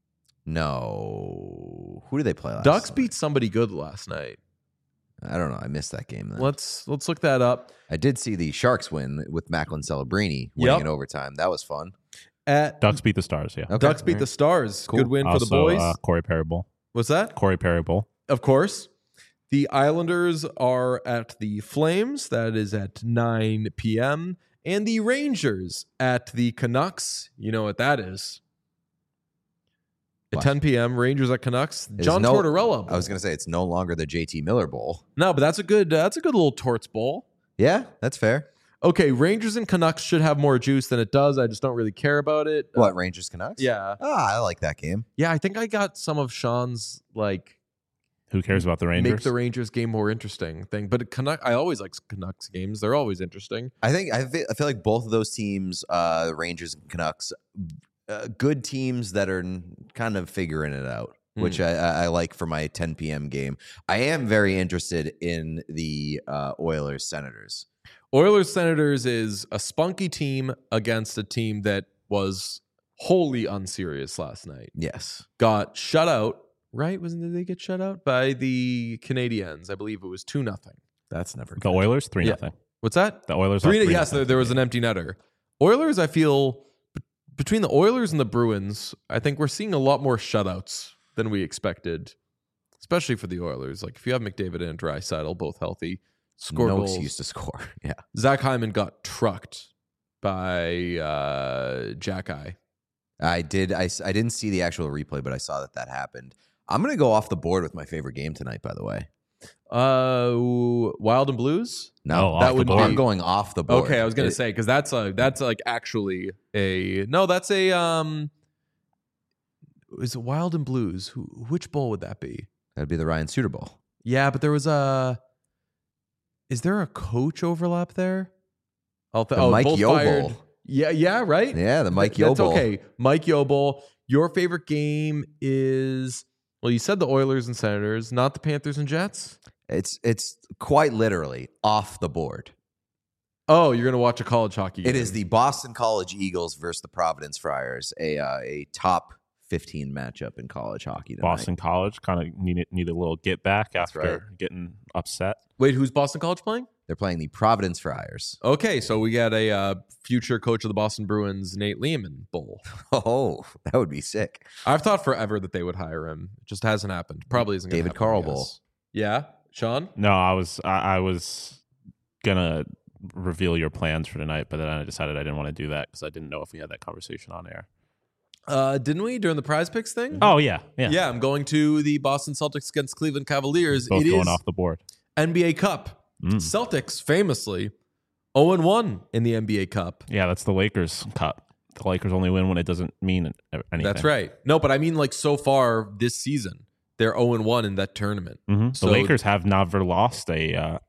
No. Who did they play last Ducks night? beat somebody good last night. I don't know. I missed that game then. Let's look that up. I did see the Sharks win with Macklin Celebrini winning Yep. in overtime. That was fun. At Ducks beat the Stars, yeah. Okay, Ducks beat all the right. Stars. Cool. Good win for the Also, boys. Corey Perry Bowl. What's that? Corey Perry Bowl. Of course. The Islanders are at the Flames. That is at 9 p.m. And the Rangers at the Canucks. You know what that is. At What? 10 p.m., Rangers at Canucks. It's John no- Tortorella Bowl. I was going to say it's no longer the JT Miller Bowl. No, but that's a good little Torts Bowl. Yeah, that's fair. Okay, Rangers and Canucks should have more juice than it does. I just don't really care about it. What, Rangers Canucks? Yeah. I like that game. Yeah, I think I got some of Sean's Who cares about the Rangers? make the Rangers game more interesting thing. But I always like Canucks games. They're always interesting. I feel like both of those teams, Rangers and Canucks, good teams that are kind of figuring it out, which I like for my 10 p.m. game. I am very interested in the Oilers Senators. Oilers Senators is a spunky team against a team that was wholly unserious last night. Yes. Got shut out, right? Did they get shut out by the Canadiens? I believe it was 2-0. That's never The good. Oilers, 3-0. What's that? The Oilers 3 lost Yes, 3-0. there was an empty netter. Oilers, I feel between the Oilers and the Bruins, I think we're seeing a lot more shutouts than we expected, especially for the Oilers. Like if you have McDavid and Draisaitl both healthy, score no goals. excuse to score. Yeah. Zach Hyman got trucked by Jack Eye. I didn't see the actual replay, but I saw that happened. I'm going to go off the board with my favorite game tonight, by the way. Wild and Blues. No, off that the would board. be I'm going off the board. okay. I was gonna say because that's like actually a no. That's a Is it Wild and Blues? Which bowl would that be? That'd be the Ryan Suter Bowl. Yeah, but there was Is there a coach overlap there? Mike both Yo fired. Bowl. Yeah, right. Yeah, the Mike Yo That's Bowl. okay. Mike Yo Bowl. Your favorite game is you said the Oilers and Senators, not the Panthers and Jets. It's quite literally off the board. Oh, you're gonna watch a college hockey game. It is the Boston College Eagles versus the Providence Friars, a top 15 matchup in college hockey tonight. Boston College kind of need a little get back after right. getting upset. Wait, who's Boston College playing? They're playing the Providence Friars. Okay, so we got a future coach of the Boston Bruins, Nate Lehman Bowl. Oh, that would be sick. I've thought forever that they would hire him. It just hasn't happened. Probably isn't. David happen, Carl I guess. Bowl. Yeah, Sean. No, I was gonna reveal your plans for tonight, but then I decided I didn't want to do that because I didn't know if we had that conversation on air. Didn't we during the Prize Picks thing? Oh yeah. Yeah, I'm going to the Boston Celtics against Cleveland Cavaliers. Both It going is off the board. NBA Cup. Celtics famously 0-1 in the NBA Cup. Yeah, that's the Lakers Cup. The Lakers only win when it doesn't mean anything. That's right. No, but I mean, like, so far this season, they're 0-1 in that tournament. The Lakers have never lost a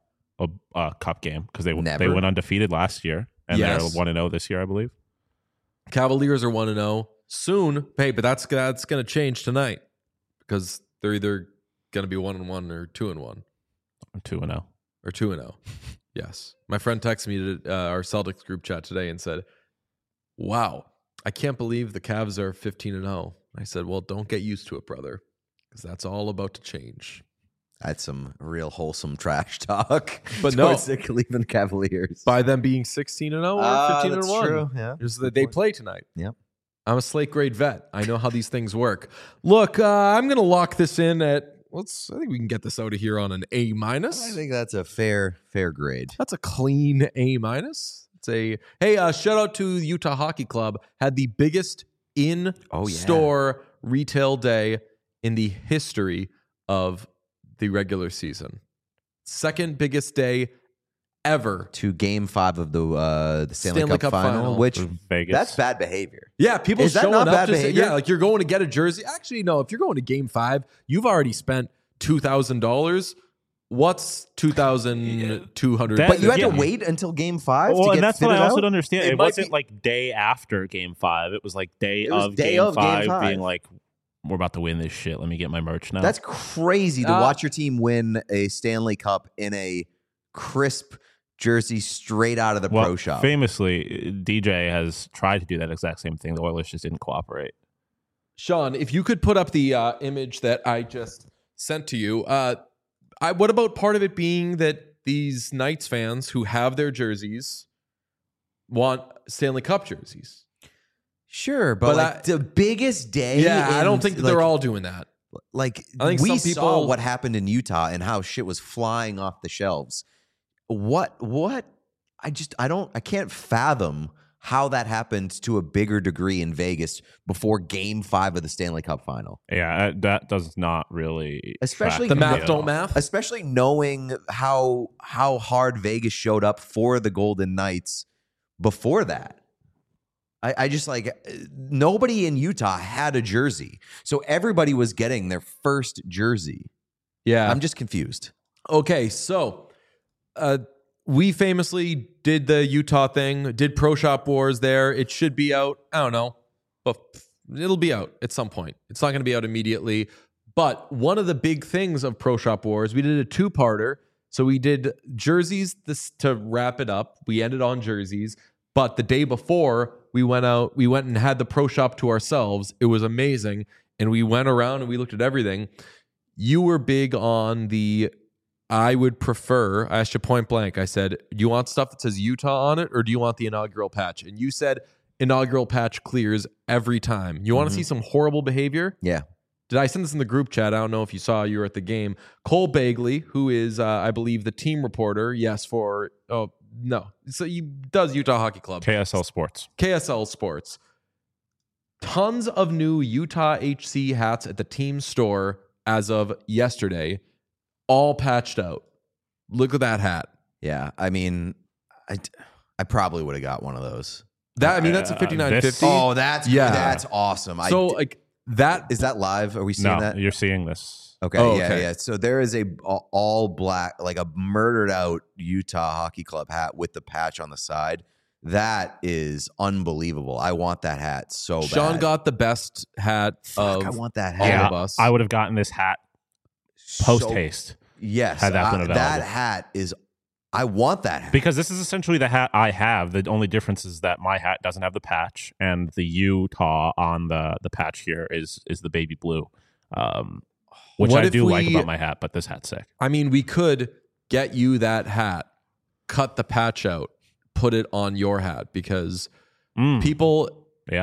cup game because they went undefeated last year, and they're 1-0 this year, I believe. Cavaliers are 1-0 soon. Hey, but that's going to change tonight because they're either going to be 1-1 or 2-1. 2-0. Or 2-0. Yes. My friend texted me to our Celtics group chat today and said, wow, I can't believe the Cavs are 15-0. I said, well, don't get used to it, brother, because that's all about to change. That's some real wholesome trash talk. But no, towards the Cleveland Cavaliers. By them being 16-0 or 15-1. That's true. Yeah. They play tonight. Yep. I'm a slate grade vet. I know how these things work. Look, I'm going to lock this in at, I think we can get this out of here on an A-. I think that's a fair grade. That's a clean A-. Shout out to the Utah Hockey Club. Had the biggest in-store retail day in the history of the regular season. Second biggest day ever. To Game 5 of the Stanley Cup final, which Vegas. That's bad behavior. Yeah, people Is that showing not up. bad behavior? Yeah, like you're going to get a jersey. Actually, no. If you're going to Game 5, you've already spent $2,000. What's $2,200? But you had to wait until Game 5 to get and that's what I also out? don't understand. It It might wasn't be- like day after Game 5. It was like day It was of day Game of Game 5 5. being like, we're about to win this shit. Let me get my merch now. That's crazy to watch your team win a Stanley Cup in a crisp jersey straight out of the pro shop. Famously, DJ has tried to do that exact same thing. The Oilers just didn't cooperate. Sean, if you could put up the image that I just sent to you, what about part of it being that these Knights fans who have their jerseys want Stanley Cup jerseys? Sure, but the biggest day. I don't think that they're all doing that. Like, I think we some people saw what happened in Utah and how shit was flying off the shelves. What? I can't fathom how that happened to a bigger degree in Vegas before Game 5 of the Stanley Cup final. Yeah, that does not really. Especially The track math me at don't all. math. Especially knowing how hard Vegas showed up for the Golden Knights before that. I just nobody in Utah had a jersey. So everybody was getting their first jersey. Yeah. I'm just confused. Okay, so we famously did the Utah thing, did Pro Shop Wars there. It should be out, I don't know, but it'll be out at some point. It's not going to be out immediately. But one of the big things of Pro Shop Wars, we did a two-parter. So we did jerseys to wrap it up. We ended on jerseys. But the day before, we went and had the Pro Shop to ourselves. It was amazing. And we went around and we looked at everything. You were big on I asked you point blank. I said, do you want stuff that says Utah on it or do you want the inaugural patch? And you said inaugural patch clears every time. You want to see some horrible behavior? Yeah. Did I send this in the group chat? I don't know if you saw. You were at the game. Cole Bagley, who is, I believe, the team reporter. Yes, so he does Utah Hockey Club. KSL Sports. KSL Sports. Tons of new Utah HC hats at the team store as of yesterday, all patched out. Look at that hat. Yeah. I mean, I probably would have got one of those. That's a 5950. Oh, that's awesome. So that is that live? Are we seeing No, that? you're seeing this. Okay, yeah. So there is a all black, like a murdered out Utah Hockey Club hat with the patch on the side. That is unbelievable. I want that hat so bad. Sean got the best hat of I want that all hat. of us. I would have gotten this hat post haste Yes, had that been available. that hat is. I want that hat. because this is essentially the hat I have. The only difference is that my hat doesn't have the patch, and the Utah on the patch here is the baby blue, which What I if do like we- about my hat. But this hat's sick. I mean, we could get you that hat, cut the patch out, put it on your hat because people, Yeah.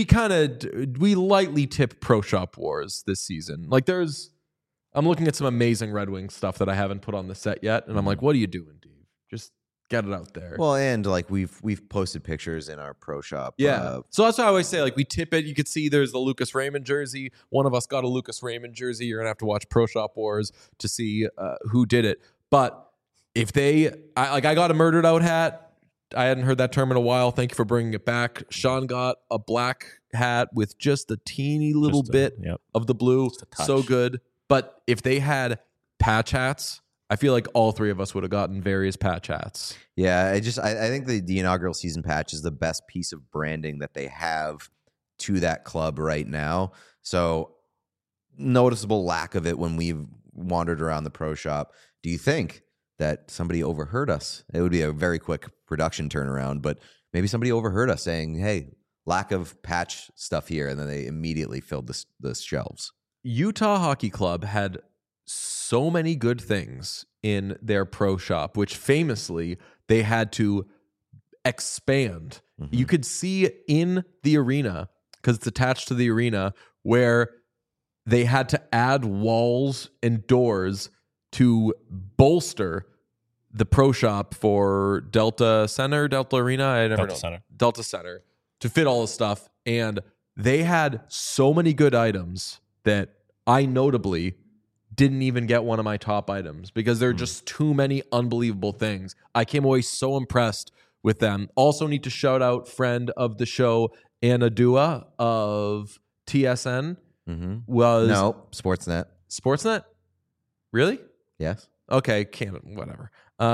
we lightly tip Pro Shop Wars this season. Like I'm looking at some amazing Red Wings stuff that I haven't put on the set yet. And I'm like, what are you doing, dude? Just get it out there. Well, and like we've posted pictures in our pro shop. Yeah. So that's why I always say, like, we tip it. You could see there's the Lucas Raymond jersey. One of us got a Lucas Raymond jersey. You're going to have to watch Pro Shop Wars to see who did it. But if I got a Murdered Out hat. I hadn't heard that term in a while. Thank you for bringing it back. Sean got a black hat with just a teeny little bit of the blue. So good. But if they had patch hats, I feel like all three of us would have gotten various patch hats. Yeah, I think the inaugural season patch is the best piece of branding that they have to that club right now. So noticeable lack of it when we've wandered around the pro shop. Do you think that somebody overheard us? It would be a very quick production turnaround, but maybe somebody overheard us saying, hey, lack of patch stuff here, and then they immediately filled the shelves. Utah Hockey Club had so many good things in their pro shop, which famously they had to expand. Mm-hmm. You could see in the arena, because it's attached to the arena, where they had to add walls and doors to bolster the pro shop for Delta Arena. I never know. Delta Center, to fit all the stuff. And they had so many good items that I notably didn't even get one of my top items because there are just too many unbelievable things. I came away so impressed with them. Also need to shout out friend of the show, Anna Dua of TSN. Was No, Sportsnet. Sportsnet? Really? Yes. Okay, whatever.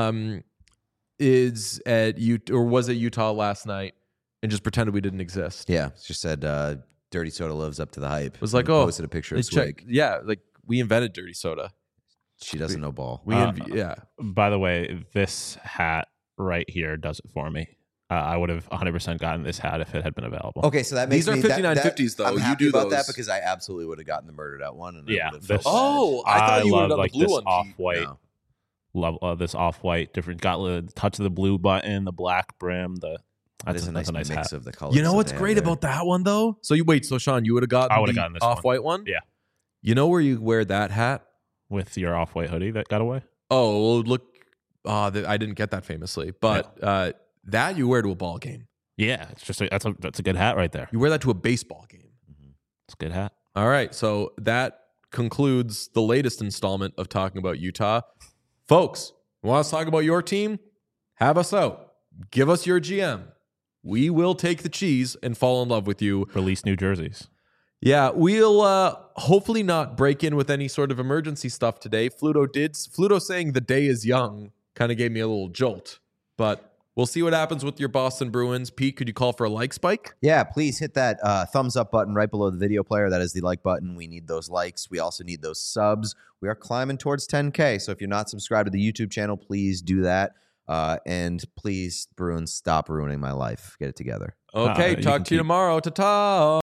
Is at was at Utah last night and just pretended we didn't exist. Yeah, she said Dirty Soda lives up to the hype. It was like, posted a picture of Swig. Like we invented dirty soda. She doesn't know ball. By the way, this hat right here does it for me. I would have 100% gotten this hat if it had been available. Okay, so that makes these are $59.50s though. I'm happy you do about those. that because I absolutely would have gotten the Murdered Out one. And Yeah. I thought you would have done like the blue this one. off-white. Love this off-white. Different. Got the touch of the blue button, the black brim. That's a nice mix hat. of the colors. You know what's great about that one though? So Sean, you would have gotten. I would have gotten this off-white one. Yeah. You know where you wear that hat with your off-white hoodie that got away. Oh, well, look. I didn't get that famously, but that you wear to a ball game. Yeah, it's just that's a good hat right there. You wear that to a baseball game. It's a good hat. All right, so that concludes the latest installment of Talking About Utah. Folks, want us to talk about your team? Have us out. Give us your GM. We will take the cheese and fall in love with you. Release new jerseys. Yeah, we'll hopefully not break in with any sort of emergency stuff today. Fluto saying the day is young kind of gave me a little jolt, but we'll see what happens with your Boston Bruins. Pete, could you call for a like spike? Yeah, please hit that thumbs up button right below the video player. That is the like button. We need those likes. We also need those subs. We are climbing towards 10K. So if you're not subscribed to the YouTube channel, please do that. And please, Bruins, stop ruining my life. Get it together. Okay, talk to you tomorrow. Ta-ta.